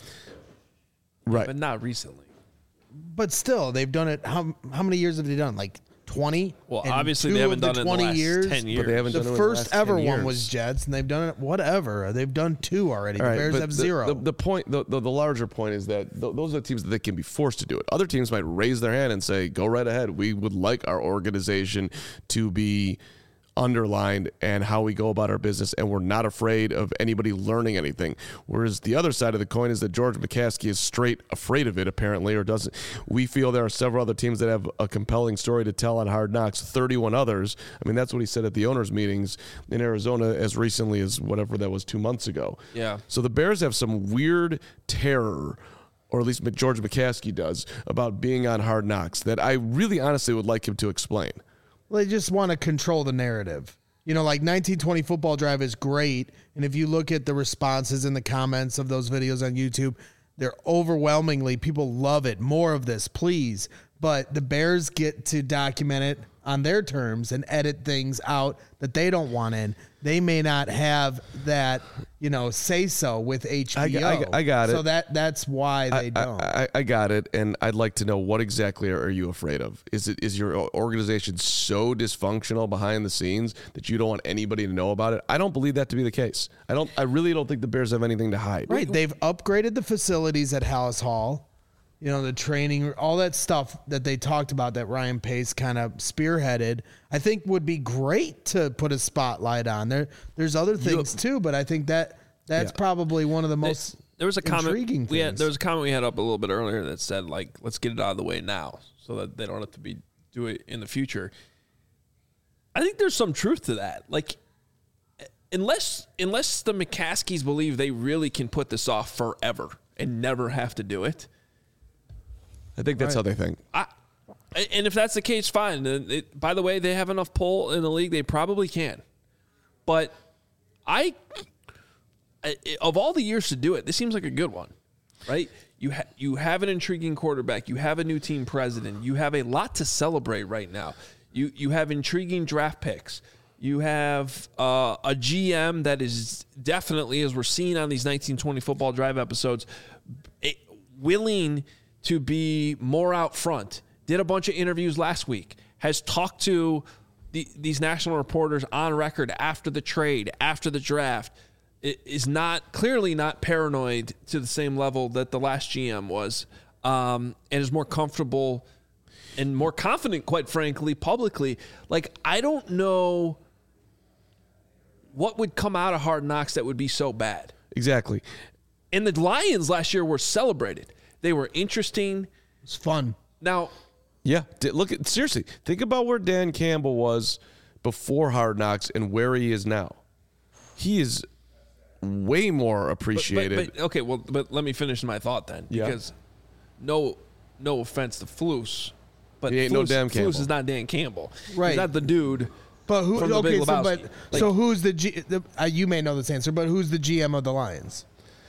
Right.
But not recently.
But still, they've done it. How how many years have they done? Like twenty?
Well,
And
obviously
two
they haven't
of
done
the
it in the
twenty
last
years.
ten years.
But they haven't
The
done it in
first
the last
ever
ten
one
years.
was Jets, and they've done it whatever. They've done two already.
All
The
right,
Bears
but
have
the,
zero.
The, the point, the, the, the larger point is that th- those are the teams that can be forced to do it. Other teams might raise their hand and say, "Go right ahead. We would like our organization to be underlined and how we go about our business, and we're not afraid of anybody learning anything. Whereas the other side of the coin is that George McCaskey is straight afraid of it, apparently, or doesn't. We feel there are several other teams that have a compelling story to tell on Hard Knocks, thirty-one others. I mean, that's what he said at the owners' meetings in Arizona as recently as whatever that was two months ago.
Yeah.
So the Bears have some weird terror, or at least George McCaskey does, about being on Hard Knocks that I really honestly would like him to explain.
Well, they just want to control the narrative. You know, like nineteen twenty Football Drive is great. And if you look at the responses in the comments of those videos on YouTube, they're overwhelmingly, people love it. More of this, please. But the Bears get to document it on their terms and edit things out that they don't want in. They may not have that, you know, say so with H B O.
I, I, I got it.
So that that's why they
I,
don't.
I, I, I got it, and I'd like to know, what exactly are you afraid of? Is it is your organization so dysfunctional behind the scenes that you don't want anybody to know about it? I don't believe that to be the case. I don't. I really don't think the Bears have anything to hide.
Right. They've upgraded the facilities at Hallis Hall. You know, the training, all that stuff that they talked about that Ryan Pace kind of spearheaded, I think would be great to put a spotlight on. There, there's other things you, too, but I think that that's yeah. probably one of the most
there was a
intriguing
comment we
things.
had, there was a comment we had up a little bit earlier that said, like, let's get it out of the way now so that they don't have to be do it in the future. I think there's some truth to that. Like, unless unless the McCaskies believe they really can put this off forever and never have to do it,
I think that's right. how they think.
I, and if that's the case, fine. It, by the way, they have enough pull in the league; they probably can. But I, I of all the years to do it, this seems like a good one, right? You ha- you have an intriguing quarterback. You have a new team president. You have a lot to celebrate right now. You you have intriguing draft picks. You have uh, a G M that is definitely, as we're seeing on these nineteen twenty Football Drive episodes, it, willing to be more out front. Did a bunch of interviews last week. Has talked to the, these national reporters on record after the trade, after the draft. It is not clearly not paranoid to the same level that the last G M was, um, and is more comfortable and more confident, quite frankly, publicly. Like, I don't know what would come out of Hard Knocks that would be so bad.
Exactly.
And the Lions last year were celebrated. They were interesting.
It's fun.
Now,
yeah, look at seriously. Think about where Dan Campbell was before Hard Knocks and where he is now. He is way more appreciated.
But, but, but, okay, well, but let me finish my thought then,
yeah.
because no, no offense to Flus, but
he ain't
Flus,
no Dan Campbell.
Flus is not Dan Campbell.
Right?
He's not the dude.
But who?
From the
okay,
Big
so
Lebowski.
but
Like,
so who's the G? The, uh, you may know this answer, but who's the G M of the Lions?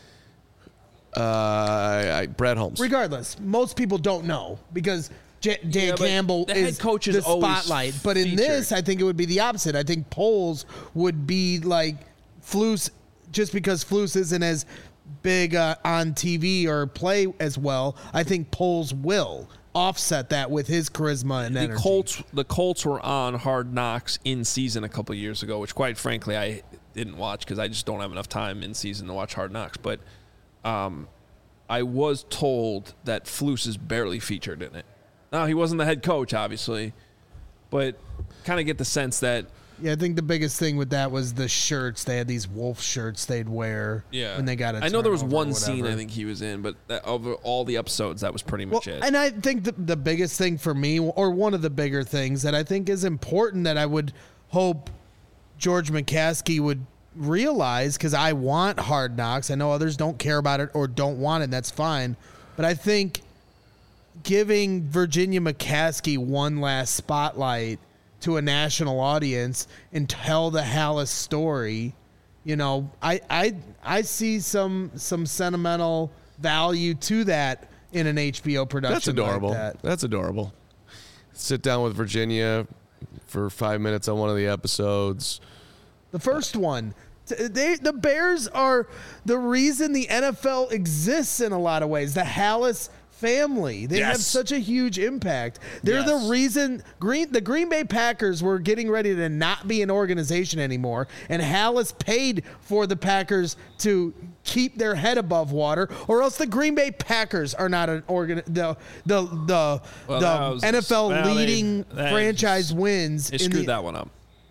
Uh, I, Brad Holmes.
Regardless, most people don't know because J- Dan
Yeah, but
Campbell
the head
is
coach is
the
always
spotlight. But in
featured.
this, I think it would be the opposite. I think Poles would be like Flus, just because Flus isn't as big uh, on T V or play as well. I think Poles will offset that with his charisma and
the
energy.
Colts, the Colts were on Hard Knocks in season a couple of years ago, which quite frankly I didn't watch because I just don't have enough time in season to watch Hard Knocks. But um, I was told that Flus is barely featured in it. Now, he wasn't the head coach, obviously, but kind of get the sense that.
Yeah, I think the biggest thing with that was the shirts. They had these wolf shirts they'd wear
Yeah,
when they got it.
I know there was one scene I think he was in, but that, over all the episodes, that was pretty much
well,
it.
And I think the, the biggest thing for me, or one of the bigger things that I think is important that I would hope George McCaskey would realize, because I want Hard Knocks. I know others don't care about it or don't want it, and that's fine. But I think giving Virginia McCaskey one last spotlight to a national audience and tell the Hallis story, you know, I I I see some some sentimental value to that in an H B O production.
That's adorable.
Like that.
That's adorable. Sit down with Virginia for five minutes on one of the episodes.
The first one. They, the Bears are the reason the N F L exists in a lot of ways. The Hallis family. They
Yes.
have such a huge impact. They're
Yes.
the reason Green the Green Bay Packers were getting ready to not be an organization anymore, and Hallis paid for the Packers to keep their head above water, or else the Green Bay Packers are not an organ the the the,
Well,
the
that was-
N F L
well, they-
leading
they
franchise
just-
wins
They
in
screwed
the,
that one up.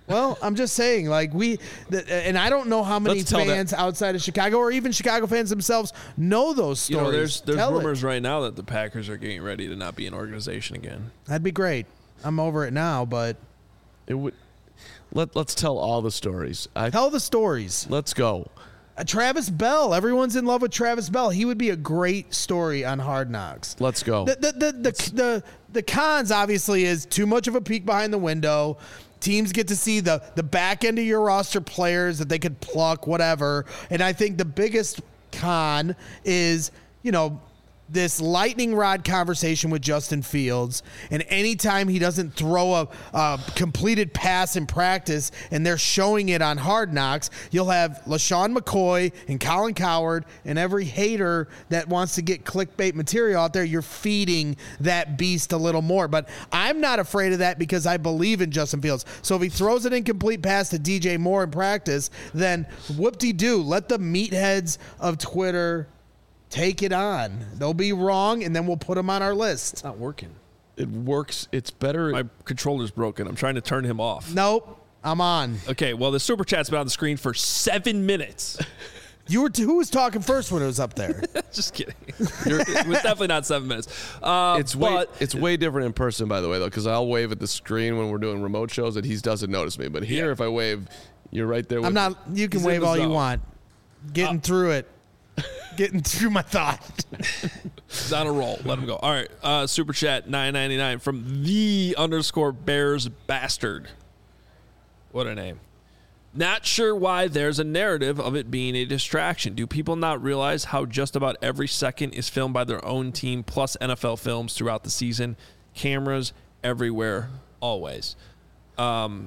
Well, I'm just saying, like we, the, and I don't know how many
Let's tell
fans
that-
outside of Chicago or even Chicago fans themselves know those stories.
You know, there's there's
Tell
rumors
it.
right now that the Packers are getting ready to not be an organization again.
That'd be great. I'm over it now, but
It would. Let Let's tell all the stories. I,
tell the stories.
let's go.
Uh, Travis Bell. Everyone's in love with Travis Bell. He would be a great story on Hard Knocks.
Let's go.
The the the the, the, the cons obviously is too much of a peek behind the window. Teams get to see the the back end of your roster players that they could pluck, whatever. And I think the biggest con is, you know, this lightning rod conversation with Justin Fields, and anytime he doesn't throw a, a completed pass in practice and they're showing it on Hard Knocks, you'll have LaShawn McCoy and Colin Cowherd and every hater that wants to get clickbait material out there. You're feeding that beast a little more. But I'm not afraid of that because I believe in Justin Fields. So if he throws an incomplete pass to D J Moore in practice, then whoop-de-doo, let the meatheads of Twitter take it on. They'll be wrong, and then we'll put them on our list.
It's not working.
It works. It's better.
My controller's broken. I'm trying to turn him off.
Nope, I'm on.
Okay, well, the super chat's been on the screen for seven minutes.
You were t- who was talking first when it was up there?
Just kidding. It was definitely not seven minutes. Uh,
It's way
but
it's way different in person, by the way, though, because I'll wave at the screen when we're doing remote shows and he doesn't notice me. But here,
Yeah.
if I wave, you're right there with
I'm not. You can
He's in
wave
the
all you
zone.
want. Getting through it. Getting through my thought.
He's on a roll. Let him go. All right. Uh, super chat nine ninety-nine from the underscore Bears bastard. What a name. Not sure why there's a narrative of it being a distraction. Do people not realize how just about every second is filmed by their own team plus N F L films throughout the season? Cameras everywhere, always. Um,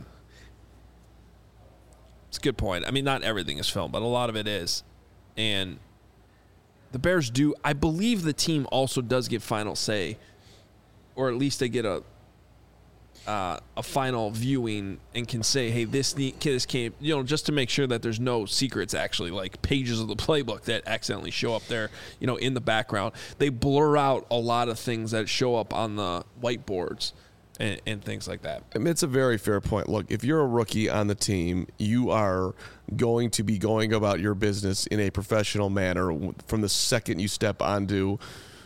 it's a good point. I mean, not everything is filmed, but a lot of it is. And the Bears do, I believe the team also does get final say, or at least they get a uh, a final viewing and can say, hey, this need, this came, you know, just to make sure that there's no secrets, actually, like pages of the playbook that accidentally show up there, you know, in the background. They blur out a lot of things that show up on the whiteboards and, and things like that.
I mean, it's a very fair point. Look, if you're a rookie on the team, you are going to be going about your business in a professional manner from the second you step onto,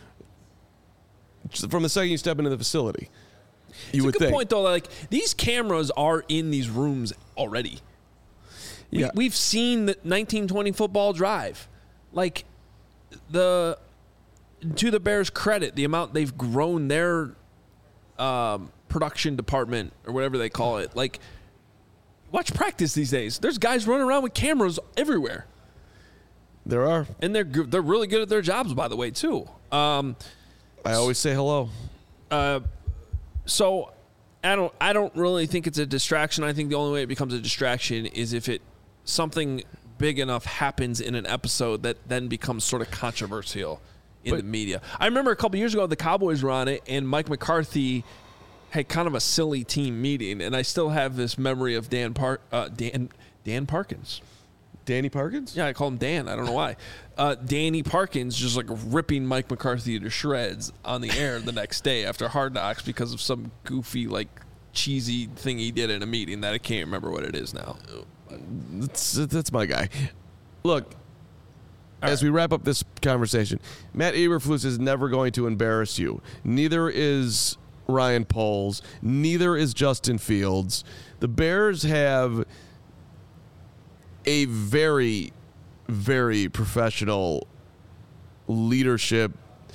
from the second you step into the facility. You
It's
would
a good
think.
point, though. Like, these cameras are in these rooms already. We,
Yeah.
We've seen the nineteen twenty football drive. Like, the to the Bears' credit, the amount they've grown their um, production department or whatever they call it. Like, watch practice these days. There's guys running around with cameras everywhere,
There are.
and they're good- they're really good at their jobs, by the way, too. Um,
I always say hello.
uh, so I don't I don't really think it's a distraction. I think the only way it becomes a distraction is if it something big enough happens in an episode that then becomes sort of controversial in
But-
the media. I remember a couple years ago the Cowboys were on it and Mike McCarthy had kind of a silly team meeting, and I still have this memory of Dan Park uh, Dan Dan Parkins.
Danny Parkins?
Yeah, I call him Dan. I don't know why. Uh, Danny Parkins just like ripping Mike McCarthy to shreds on the air the next day after Hard Knocks because of some goofy, like, cheesy thing he did in a meeting that I can't remember what it is now.
That's, that's my guy. Look, as we wrap up this conversation, Matt Eberflus is never going to embarrass you. Neither is Ryan Poles. Neither is Justin Fields. The Bears have a very, very professional leadership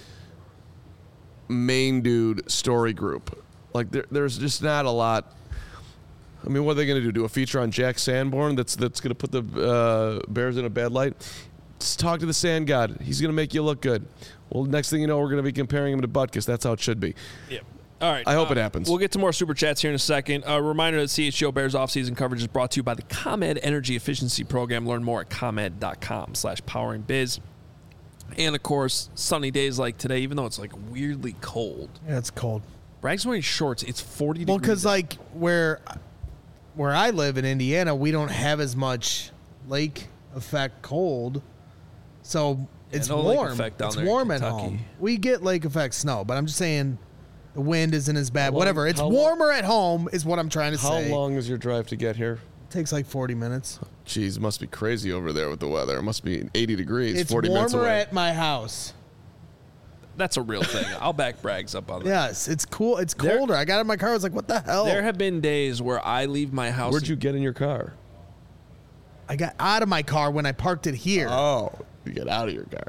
main dude story group. Like there, there's just not a lot. I mean, what are they going to do? Do a feature on Jack Sanborn that's that's going to put the uh, Bears in a bad light? Just talk to the Sand God. He's going to make you look good. Well, next thing you know, we're going to be comparing him to Butkus. That's how it should be.
Yeah. All right.
I hope
uh,
it happens.
We'll get to more super chats here in a second. A reminder that C H G O Bears offseason coverage is brought to you by the ComEd Energy Efficiency Program. Learn more at comed.com slash powering biz. And, of course, sunny days like today, even though it's, like, weirdly cold.
Yeah, it's cold.
Bragg's wearing shorts. It's forty
Well,
degrees.
because like where where I live in Indiana, we don't have as much lake effect cold, so it's
no lake
warm.
effect down
it's
there in
warm at
Kentucky.
home. We get lake effect snow, but I'm just saying The wind isn't as bad.
long-
Whatever. It's
how
warmer at home is what I'm trying to
How
say.
long is your drive to get here?
It takes like forty minutes.
Jeez, it must be crazy over there with the weather. It must be eighty degrees,
It's
forty minutes
warmer
away.
at my house.
That's a real thing. I'll back Braggs up on that.
Yes, it's cool. It's
There-
colder. I got in my car. I was like, what the hell?
There have been days where I leave my house.
Where'd you get in your car?
I got out of my car when I parked it here.
Oh, you get out of your car.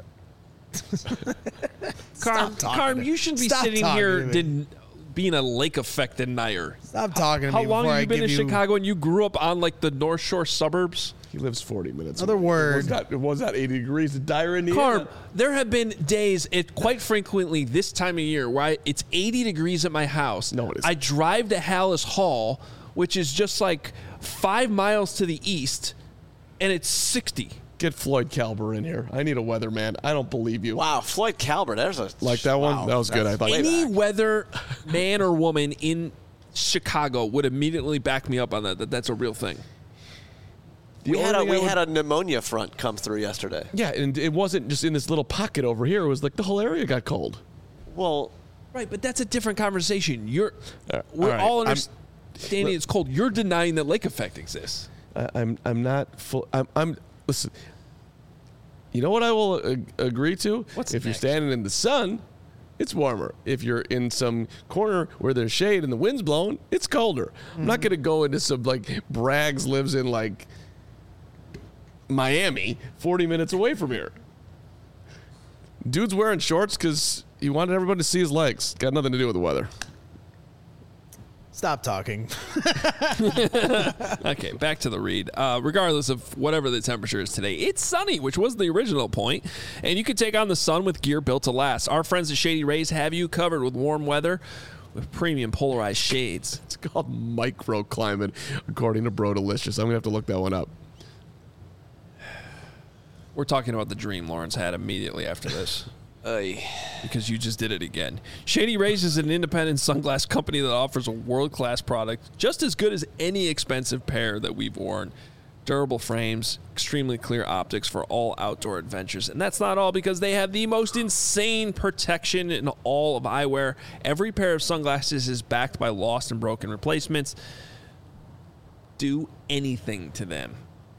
Carm,
Stop talking
Carm,
to-
you should be
Stop
sitting
talking
here
to me.
did, being a lake affected Nair.
Stop talking to
How
me
long
before
have
I
you been
give
in
you
Chicago and you grew up on like the North Shore suburbs?
He lives forty minutes.
Another
away.
word.
It was not, it was not eighty degrees in Dyer, Indiana.
Carm, there have been days, it quite frequently this time of year, where I, it's eighty degrees at my house.
No, it isn't.
I drive to Hallis Hall, which is just like five miles to the east, and it's sixty.
Get Floyd Calber in here. I need a weatherman. I don't believe you.
Wow, Floyd Calvert. There's a
Like that one?
wow,
That was good.
that's
I thought-
way
Any
back.
weather man or woman in Chicago would immediately back me up on that. That that's a real thing.
The
We
only
had a
thing I
we
would-
had a pneumonia front come through yesterday.
Yeah, and it wasn't just in this little pocket over here. It was like the whole area got cold.
Well,
Right, but that's a different conversation. You're
Uh,
we're
all right,
all
I'm-
understanding it's cold. You're denying that lake effect exists.
I, I'm I'm not full. I'm I'm listen. You know what I will ag- agree to?
What's
if you're
next?
standing in the sun, it's warmer. If you're in some corner where there's shade and the wind's blowing, it's colder. I'm
Mm-hmm.
not going to go into some like Braggs lives in like Miami, forty minutes away from here. Dude's wearing shorts because he wanted everybody to see his legs. Got nothing to do with the weather.
Stop talking.
Okay, back to the read. Uh, regardless of whatever the temperature is today, it's sunny, which was the original point, and you can take on the sun with gear built to last. Our friends at Shady Rays have you covered with warm weather with premium polarized shades.
It's called microclimate, according to Bro Delicious. I'm going to have to look that one up.
We're talking about the dream Lawrence had immediately after this.
Ay.
Because you just did it again. Shady Rays is an independent sunglass company that offers a world-class product just as good as any expensive pair that we've worn. Durable frames, extremely clear optics for all outdoor adventures. And that's not all, because they have the most insane protection in all of eyewear. Every pair of sunglasses is backed by lost and broken replacements. Do anything to them.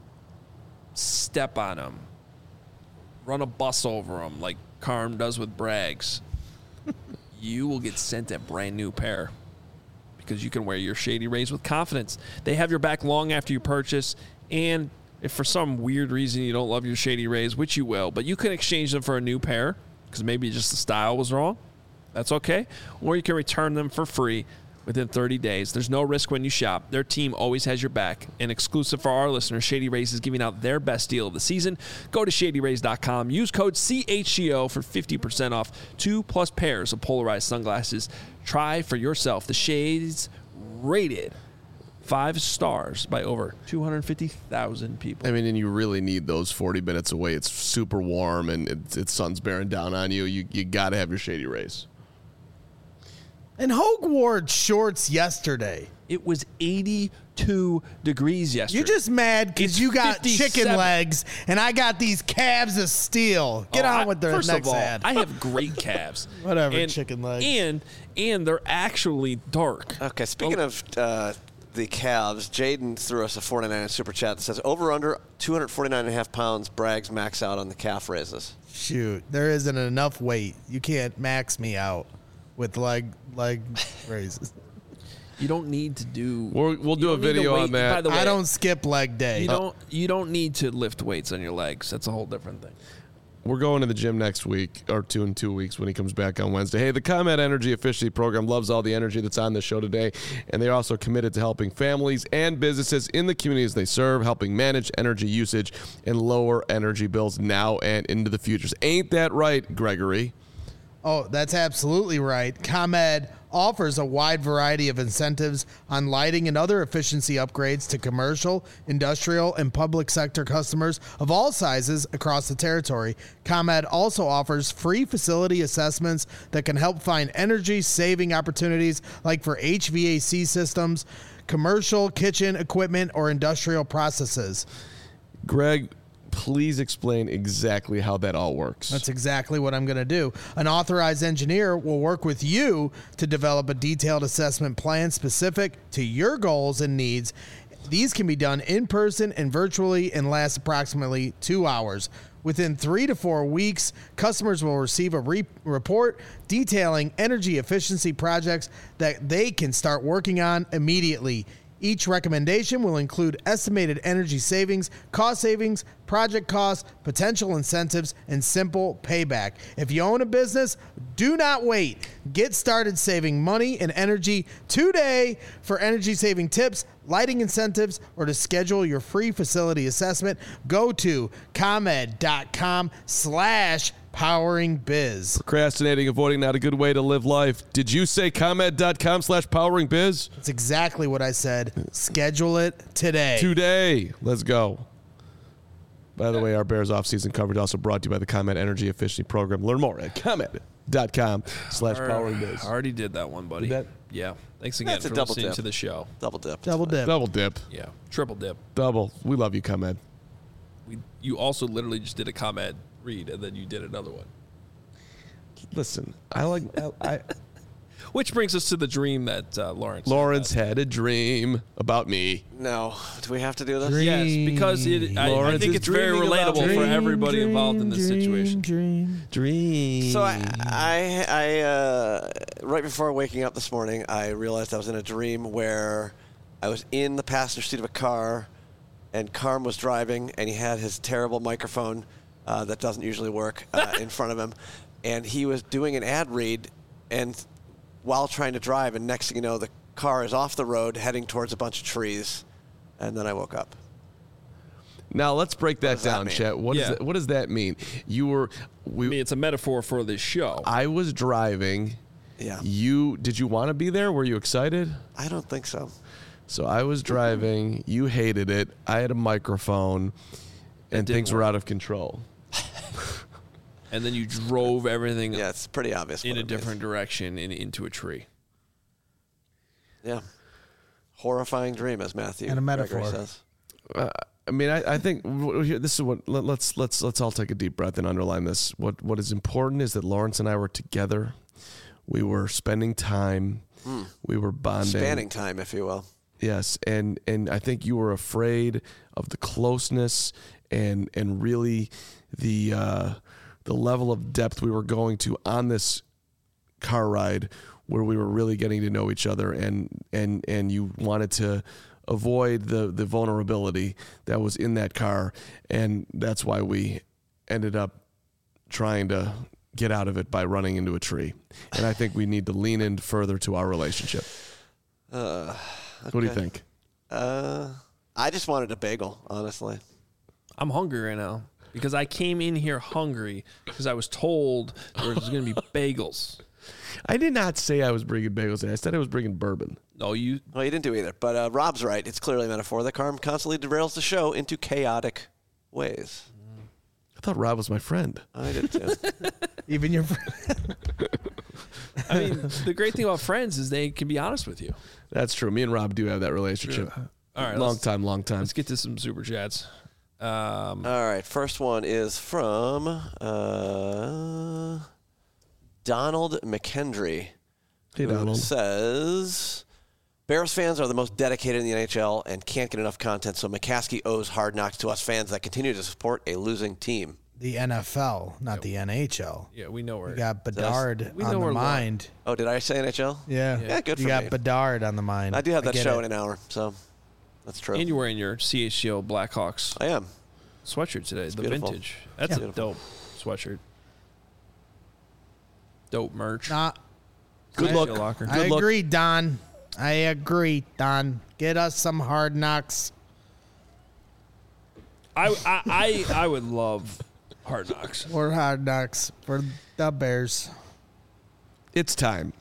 Step on them. Run a bus over them like Carm does with Braggs. You will get sent a brand new pair because you can wear your Shady Rays with confidence. They have your back long after you purchase, and if for some weird reason you don't love your Shady Rays, which you will, but you can exchange them for a new pair because maybe just the style was wrong. That's okay. Or you can return them for free within thirty days. There's no risk when you shop. Their team always has your back. And exclusive for our listeners, Shady Rays is giving out their best deal of the season. Go to shady rays dot com. Use code C H C O for fifty percent off two plus pairs of polarized sunglasses. Try for yourself the shades rated five stars by over two hundred fifty thousand people.
I mean, and you really need those forty minutes away. It's super warm and it's, it's sun's bearing down on you. You you got to have your Shady Rays.
And Hogue wore shorts yesterday.
It was eighty-two degrees yesterday.
You're just mad because
It's
you got
fifty-seven.
chicken legs and I got these calves of steel. Get
Oh,
on
I-
with the
first
next
of all,
ad.
I have great calves.
Whatever,
And-
chicken legs.
And and they're actually dark.
Okay, speaking
Oh.
of uh, the calves, Jaden threw us a forty-nine super chat that says over under two forty-nine and a half pounds, Braggs max out on the calf raises.
Shoot, there isn't enough weight. You can't max me out with leg leg raises.
You don't need to do.
We'll, we'll
you
do a
don't need to
video
wait-
on that.
By the way,
I don't skip leg day.
You don't. You don't need to lift weights on your legs. That's a whole different thing.
We're going to the gym next week, or two in two weeks when he comes back on Wednesday. Hey, the ComEd Energy Efficiency Program loves all the energy that's on the show today, and they're also committed to helping families and businesses in the communities they serve, helping manage energy usage and lower energy bills now and into the future. Ain't that right, Gregory?
Oh, that's absolutely right. ComEd offers a wide variety of incentives on lighting and other efficiency upgrades to commercial, industrial, and public sector customers of all sizes across the territory. ComEd also offers free facility assessments that can help find energy-saving opportunities like for H V A C systems, commercial kitchen equipment, or industrial processes.
Greg, please explain exactly how that all works?
That's exactly what I'm going to do. An authorized engineer will work with you to develop a detailed assessment plan specific to your goals and needs. These can be done in person and virtually and last approximately two hours. Within three to four weeks, customers will receive a re- report detailing energy efficiency projects that they can start working on immediately. Each recommendation will include estimated energy savings, cost savings, project costs, potential incentives, and simple payback. If you own a business, do not wait. Get started saving money and energy today. For energy saving tips, lighting incentives, or to schedule your free facility assessment, go to ComEd.com slash powering biz.
Procrastinating, avoiding, not a good way to live life. Did you say ComEd.com slash powering biz?
That's exactly what I said. Schedule it today.
Today. Let's go. By the way, our Bears offseason coverage also brought to you by the ComEd Energy Efficiency Program. Learn more at ComEd.com slash powering biz.
I already did that one, buddy.
Did that?
Yeah. Thanks again
That's a
for
double
listening
dip.
to the show.
Double dip.
Double dip.
Double dip.
Yeah. Triple dip.
Double. We love you, ComEd.
We, you also literally just did a ComEd read, and then you did another one.
Listen, I like... I, I
Which brings us to the dream that uh, Lawrence
Lawrence had a dream about me.
No. Do we have to do this?
Dream.
Yes, because it, I, I
Lawrence
think
is
it's very
dreaming about
relatable for
dream,
everybody involved in this situation.
Dream.
Dream.
So I, I, I uh, right before waking up this morning, I realized I was in a dream where I was in the passenger seat of a car, and Carm was driving, and he had his terrible microphone uh, that doesn't usually work uh, in front of him, and he was doing an ad read, and while trying to drive, and next thing you know, the car is off the road heading towards a bunch of trees, and then I woke up.
Now let's break that
does that
down,
mean?
Chet. What,
Yeah.
is that, what does that mean? You were... We,
I mean, it's a metaphor for this show.
I was driving.
Yeah.
You did you want to be there? Were you excited?
I don't think so.
So I was driving. You hated it. I had a microphone, and
didn't
things were out of control.
And then you drove everything
Yeah, it's pretty obvious.
in
what
a
it means.
different direction and into a tree.
Yeah. Horrifying dream, as Matthew
And a
Gregory
metaphor.
says.
Uh, I mean, I, I think w- here, this is what let, let's let's let's all take a deep breath and underline this. What what is important is that Lawrence and I were together. We were spending time. We were bonding.
Spanning time, if you will.
Yes, and and I think you were afraid of the closeness and and really the uh, the level of depth we were going to on this car ride, where we were really getting to know each other, and and and you wanted to avoid the the vulnerability that was in that car, and that's why we ended up trying to get out of it by running into a tree. And I think we need to lean in further to our relationship.
Uh,
What do you
okay.
think?
Uh, I just wanted a bagel, honestly.
I'm hungry right now because I came in here hungry because I was told there was going to be bagels.
I did not say I was bringing bagels in. I said I was bringing bourbon.
No, you.
Well, you didn't do either. But uh, Rob's right. It's clearly a metaphor that Carm constantly derails the show into chaotic ways.
I thought Rob was my friend.
I did too.
Even your friend.
I mean, the great thing about friends is they can be honest with you.
That's true. Me and Rob do have that relationship.
All right,
long
let's-
time, long time.
Let's get to some super chats. Um,
All right. First one is from uh, Donald McKendry.
Hey,
who
Donald.
says Bears fans are the most dedicated in the N H L and can't get enough content, so McCaskey owes Hard Knocks to us fans that continue to support a losing team.
The N F L, not the N H L.
yeah, we know where.
You got Bedard
We know
on the
where Lawrence-
mind.
Oh, did I say N H L?
Yeah.
Yeah, good
You
for
got
me.
Bedard on the mind.
I do have that
get
show
it.
in an hour, so that's true.
And you're wearing your C H G O Blackhawks
I am.
sweatshirt today, the
beautiful.
vintage. That's
Yeah.
a dope sweatshirt. Dope merch.
Nah,
Good
I-
luck.
Locker.
I
luck.
agree, Don. I agree, Don. Get us some Hard Knocks.
I, I I I would love Hard Knocks.
Or Hard Knocks for the Bears.
It's time.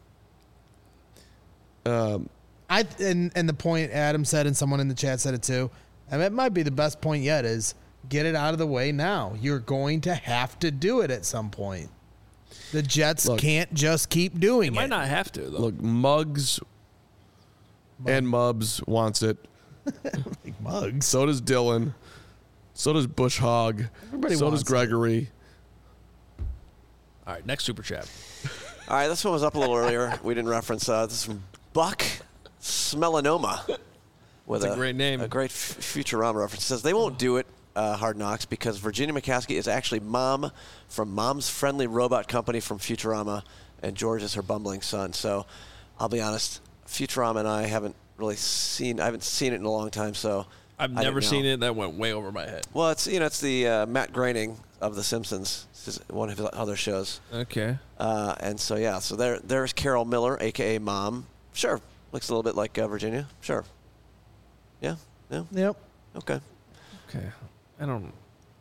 Um,
I and and the point Adam said, and someone in the chat said it too. And it might be the best point yet is get it out of the way now. You're going to have to do it at some point. The Jets
Look,
can't just keep doing
It
it.
might not have to though.
look, Muggs and Mubs wants it.
Like mugs.
So does Dylan. So does Bush Hog.
Everybody
so
wants
does Gregory.
All right, next super chat.
All right, this one was up a little earlier. We didn't reference uh, this is from Buck Smelanoma. With
That's a great name.
A great f- Futurama reference. It says they won't do it, uh, Hard Knocks, because Virginia McCaskey is actually Mom from Mom's Friendly Robot Company from Futurama, and George is her bumbling son. So I'll be honest, Futurama and I haven't really seen. I haven't seen it in a long time, so
I've
I
never
didn't
seen
know.
it. That went way over my head.
Well, it's you know it's the uh, Matt Groening of The Simpsons. This is one of his other shows.
Okay.
Uh, and so yeah, so there there's Carol Miller, aka Mom. Sure, looks a little bit like uh, Virginia. Sure. Yeah. Yeah.
Yep.
Okay.
Okay. I don't.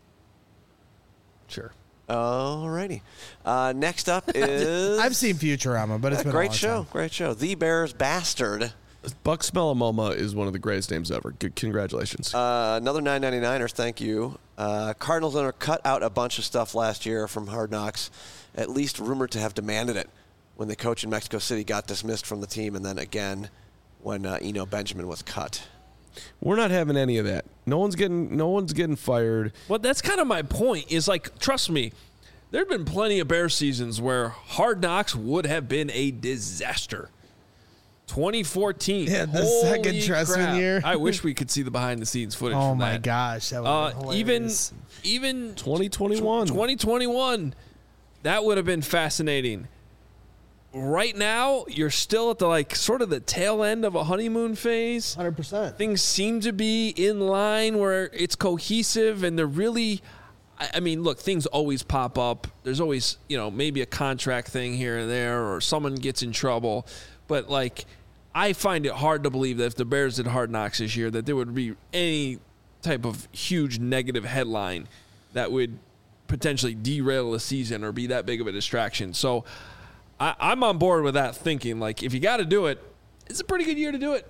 Sure.
Alrighty. Uh, next up is
I've seen Futurama, but it's
a
been a
great
long
show.
time.
Great show. The Bears Bastard.
Buck Smelamoma is one of the greatest names ever. Good, congratulations.
Uh, another nine ninety-niner. Thank you. Uh, Cardinals owner cut out a bunch of stuff last year from Hard Knocks, at least rumored to have demanded it when the coach in Mexico City got dismissed from the team, and then again when uh, Eno Benjamin was cut.
We're not having any of that. No one's getting. No one's getting fired.
Well, that's kind of my point. Is like, trust me, there have been plenty of Bears seasons where Hard Knocks would have been a disaster. twenty fourteen.
Yeah, the
Holy
second Trestman
crap.
year.
I wish we could see the behind the scenes footage.
Oh
from
my
that.
gosh, that
Uh,
was
even even
twenty twenty-one.
twenty twenty-one, that would have been fascinating. Right now, you're still at the like sort of the tail end of a honeymoon phase.
hundred percent.
Things seem to be in line where it's cohesive and they're really. I, I mean, look, things always pop up. There's always, you know, maybe a contract thing here and there, or someone gets in trouble. But like, I find it hard to believe that if the Bears did Hard Knocks this year, that there would be any type of huge negative headline that would potentially derail the season or be that big of a distraction. So I, I'm on board with that thinking. Like, if you got to do it, it's a pretty good year to do it.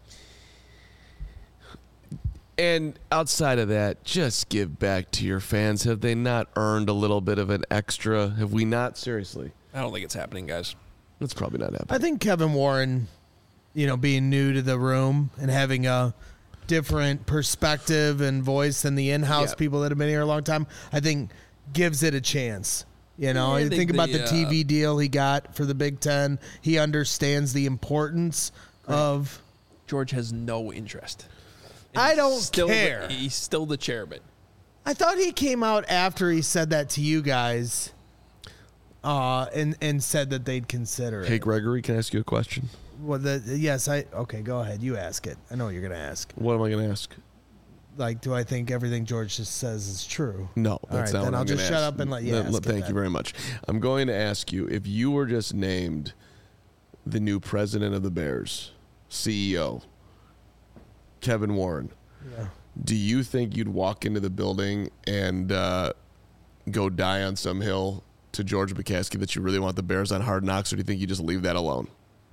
And outside of that, just give back to your fans. Have they not earned a little bit of an extra? Have we not? Seriously,
I don't think it's happening, guys.
that's probably not happening.
I think Kevin Warren, you know, being new to the room and having a different perspective and voice than the in-house
Yeah.
people that have been here a long time, I think gives it a chance. You know,
Yeah,
you
they-
think about
they,
the T V
uh,
deal he got for the Big Ten. He understands the importance of.
George has no interest. And
I
he's
don't
still
care.
The, he's still the chairman.
I thought he came out after he said that to you guys, uh, and and said that they'd consider
Hey,
it.
Gregory, can I ask you a question?
Well, the, yes, I okay. Go ahead, you ask it. I know what you're gonna ask.
What am I going to ask?
Like, do I think everything George just says is true?
No, that's
right,
not
then
what
I'll
I'm
just
gonna
shut
ask.
up and let you
No,
ask
no,
it
Thank
then.
you very much. I'm going to ask you, if you were just named the new president of the Bears, C E O, Kevin Warren,
Yeah.
do you think you'd walk into the building and uh, go die on some hill to George McCaskey that you really want the Bears on Hard Knocks, or do you think you just leave that alone?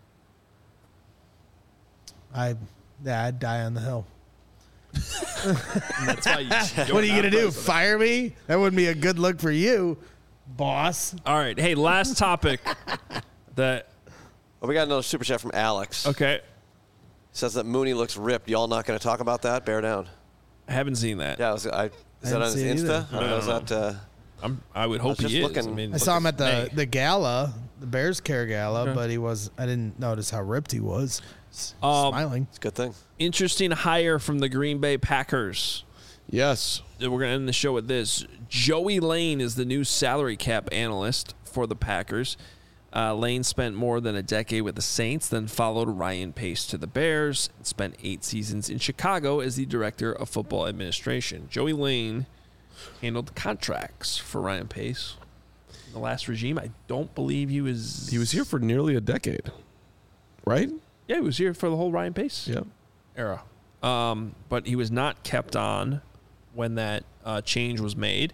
I, yeah, I'd die on the hill.
And that's why you,
What are you gonna do? Fire me? That wouldn't be a good look for you, boss.
All right. Hey, last topic. That
Well, we got another super chat from Alex.
okay.
Says that Mooney looks ripped. Y'all not going to talk about that? Bear down.
I haven't seen that.
Yeah, I was, I, is that
haven't
on his
seen it
Insta?
either.
Or is that, uh,
I'm. I would hope
was
he
just
is.
looking-
I, mean,
I saw him at the
hey,
the gala, the Bears Care Gala,
Okay.
but he was. I didn't notice how ripped he was. S-
Um,
Smiling.
it's a good thing.
interesting hire from the Green Bay Packers.
Yes.
We're going to end the show with this. Joey Lane is the new salary cap analyst for the Packers. Uh, Lane spent more than a decade with the Saints, then followed Ryan Pace to the Bears, and spent eight seasons in Chicago as the director of football administration. Joey Lane handled contracts for Ryan Pace. In the last regime, I don't believe he was...
He was here for nearly a decade, right?
Yeah, he was here for the whole Ryan Pace
Yeah.
era. Um, but he was not kept on when that uh, change was made.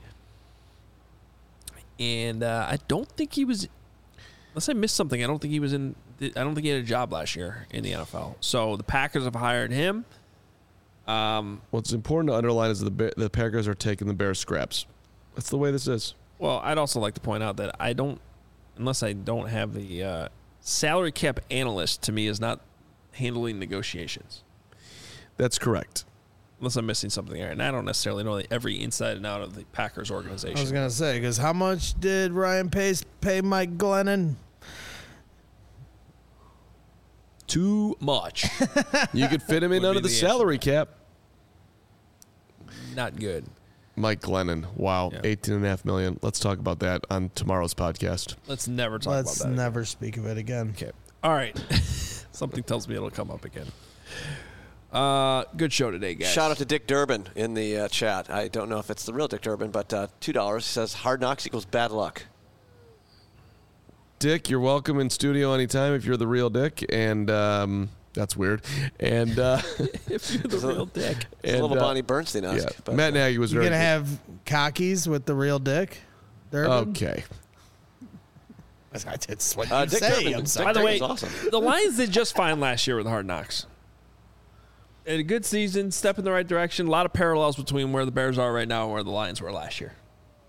And uh, I don't think he was, unless I missed something, I don't think he was in, I don't think he had a job last year in the N F L. So the Packers have hired him. Um,
What's important to underline is that the, Bear, the Packers are taking the Bears scraps. That's the way this is.
well, I'd also like to point out that I don't, unless I don't have the uh, salary cap analyst, to me, is not handling negotiations.
That's correct.
Unless I'm missing something there. And I don't necessarily know every inside and out of the Packers organization.
I was going to say, because how much did Ryan Pace pay Mike Glennon?
Too much.
You could fit him in
Would
under
be
the,
the
salary cap.
Not good.
Mike Glennon. Wow.
Yeah.
eighteen and a half million. Let's talk about that on tomorrow's podcast.
Let's never talk
Let's
about that.
never speak of it again.
Okay. All right. Something tells me it'll come up again. Uh, good show today, guys.
Shout out to Dick Durbin in the uh, chat. I don't know if it's the real Dick Durbin, but uh, two dollars. He says Hard Knocks equals bad luck.
Dick, you're welcome in studio anytime if you're the real Dick. And um, that's weird. And uh,
If you're the real Dick.
It's a
and,
little
uh,
Bonnie Bernstein-esque.
yeah,
But,
Matt Nagy was
You're
very
going to
good.
have cockies with the real Dick? Durbin?
Okay.
That's what
Uh,
you
Dick
say.
Durbin.
I'm
Dick
sorry.
By the way,
Durbin's awesome.
the Lions did just fine last year with Hard Knocks. And a good season, step in the right direction. A lot of parallels between where the Bears are right now and where the Lions were last year.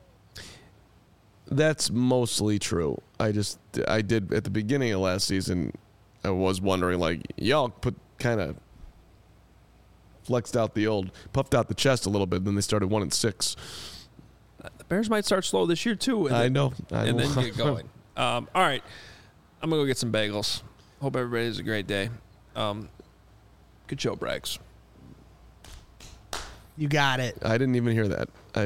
That's mostly true. I just, I did, at the beginning of last season, I was wondering, like, y'all put kind of flexed out the old, puffed out the chest a little bit, then they started one and six.
The Bears might start slow this year, too. And
I
then,
know. I
and
know.
then get going. Um, all right. I'm going to go get some bagels. Hope everybody has a great day. Um, good show, Braggs.
You got it.
I didn't even hear that. I,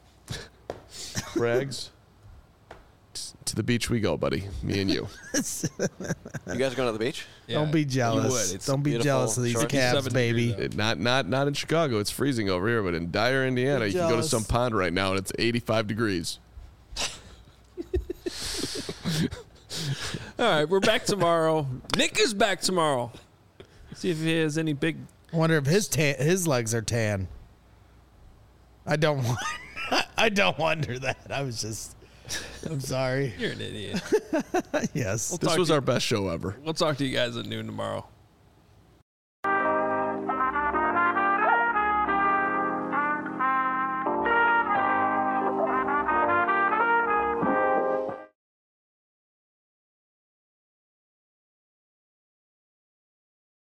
Brags, to the beach we go, buddy. Me and you.
You guys going to the beach?
Yeah,
Don't be
you
jealous.
would. It's
Don't be
beautiful
jealous of these
short.
Cavs,
fifty-seven
baby.
degrees
It- not not not in Chicago. It's freezing over here, but in Dyer, Indiana, you can go to
jealous.
some pond right now and it's eighty-five degrees.
All right, we're back tomorrow. Nick is back tomorrow. See if he has any big.
I wonder if his tan, his legs are tan. I don't want. I don't wonder that. I was just. I'm sorry.
You're an idiot.
Yes.
We'll
This
talk
was
to
our best show ever.
We'll talk to you guys at noon tomorrow.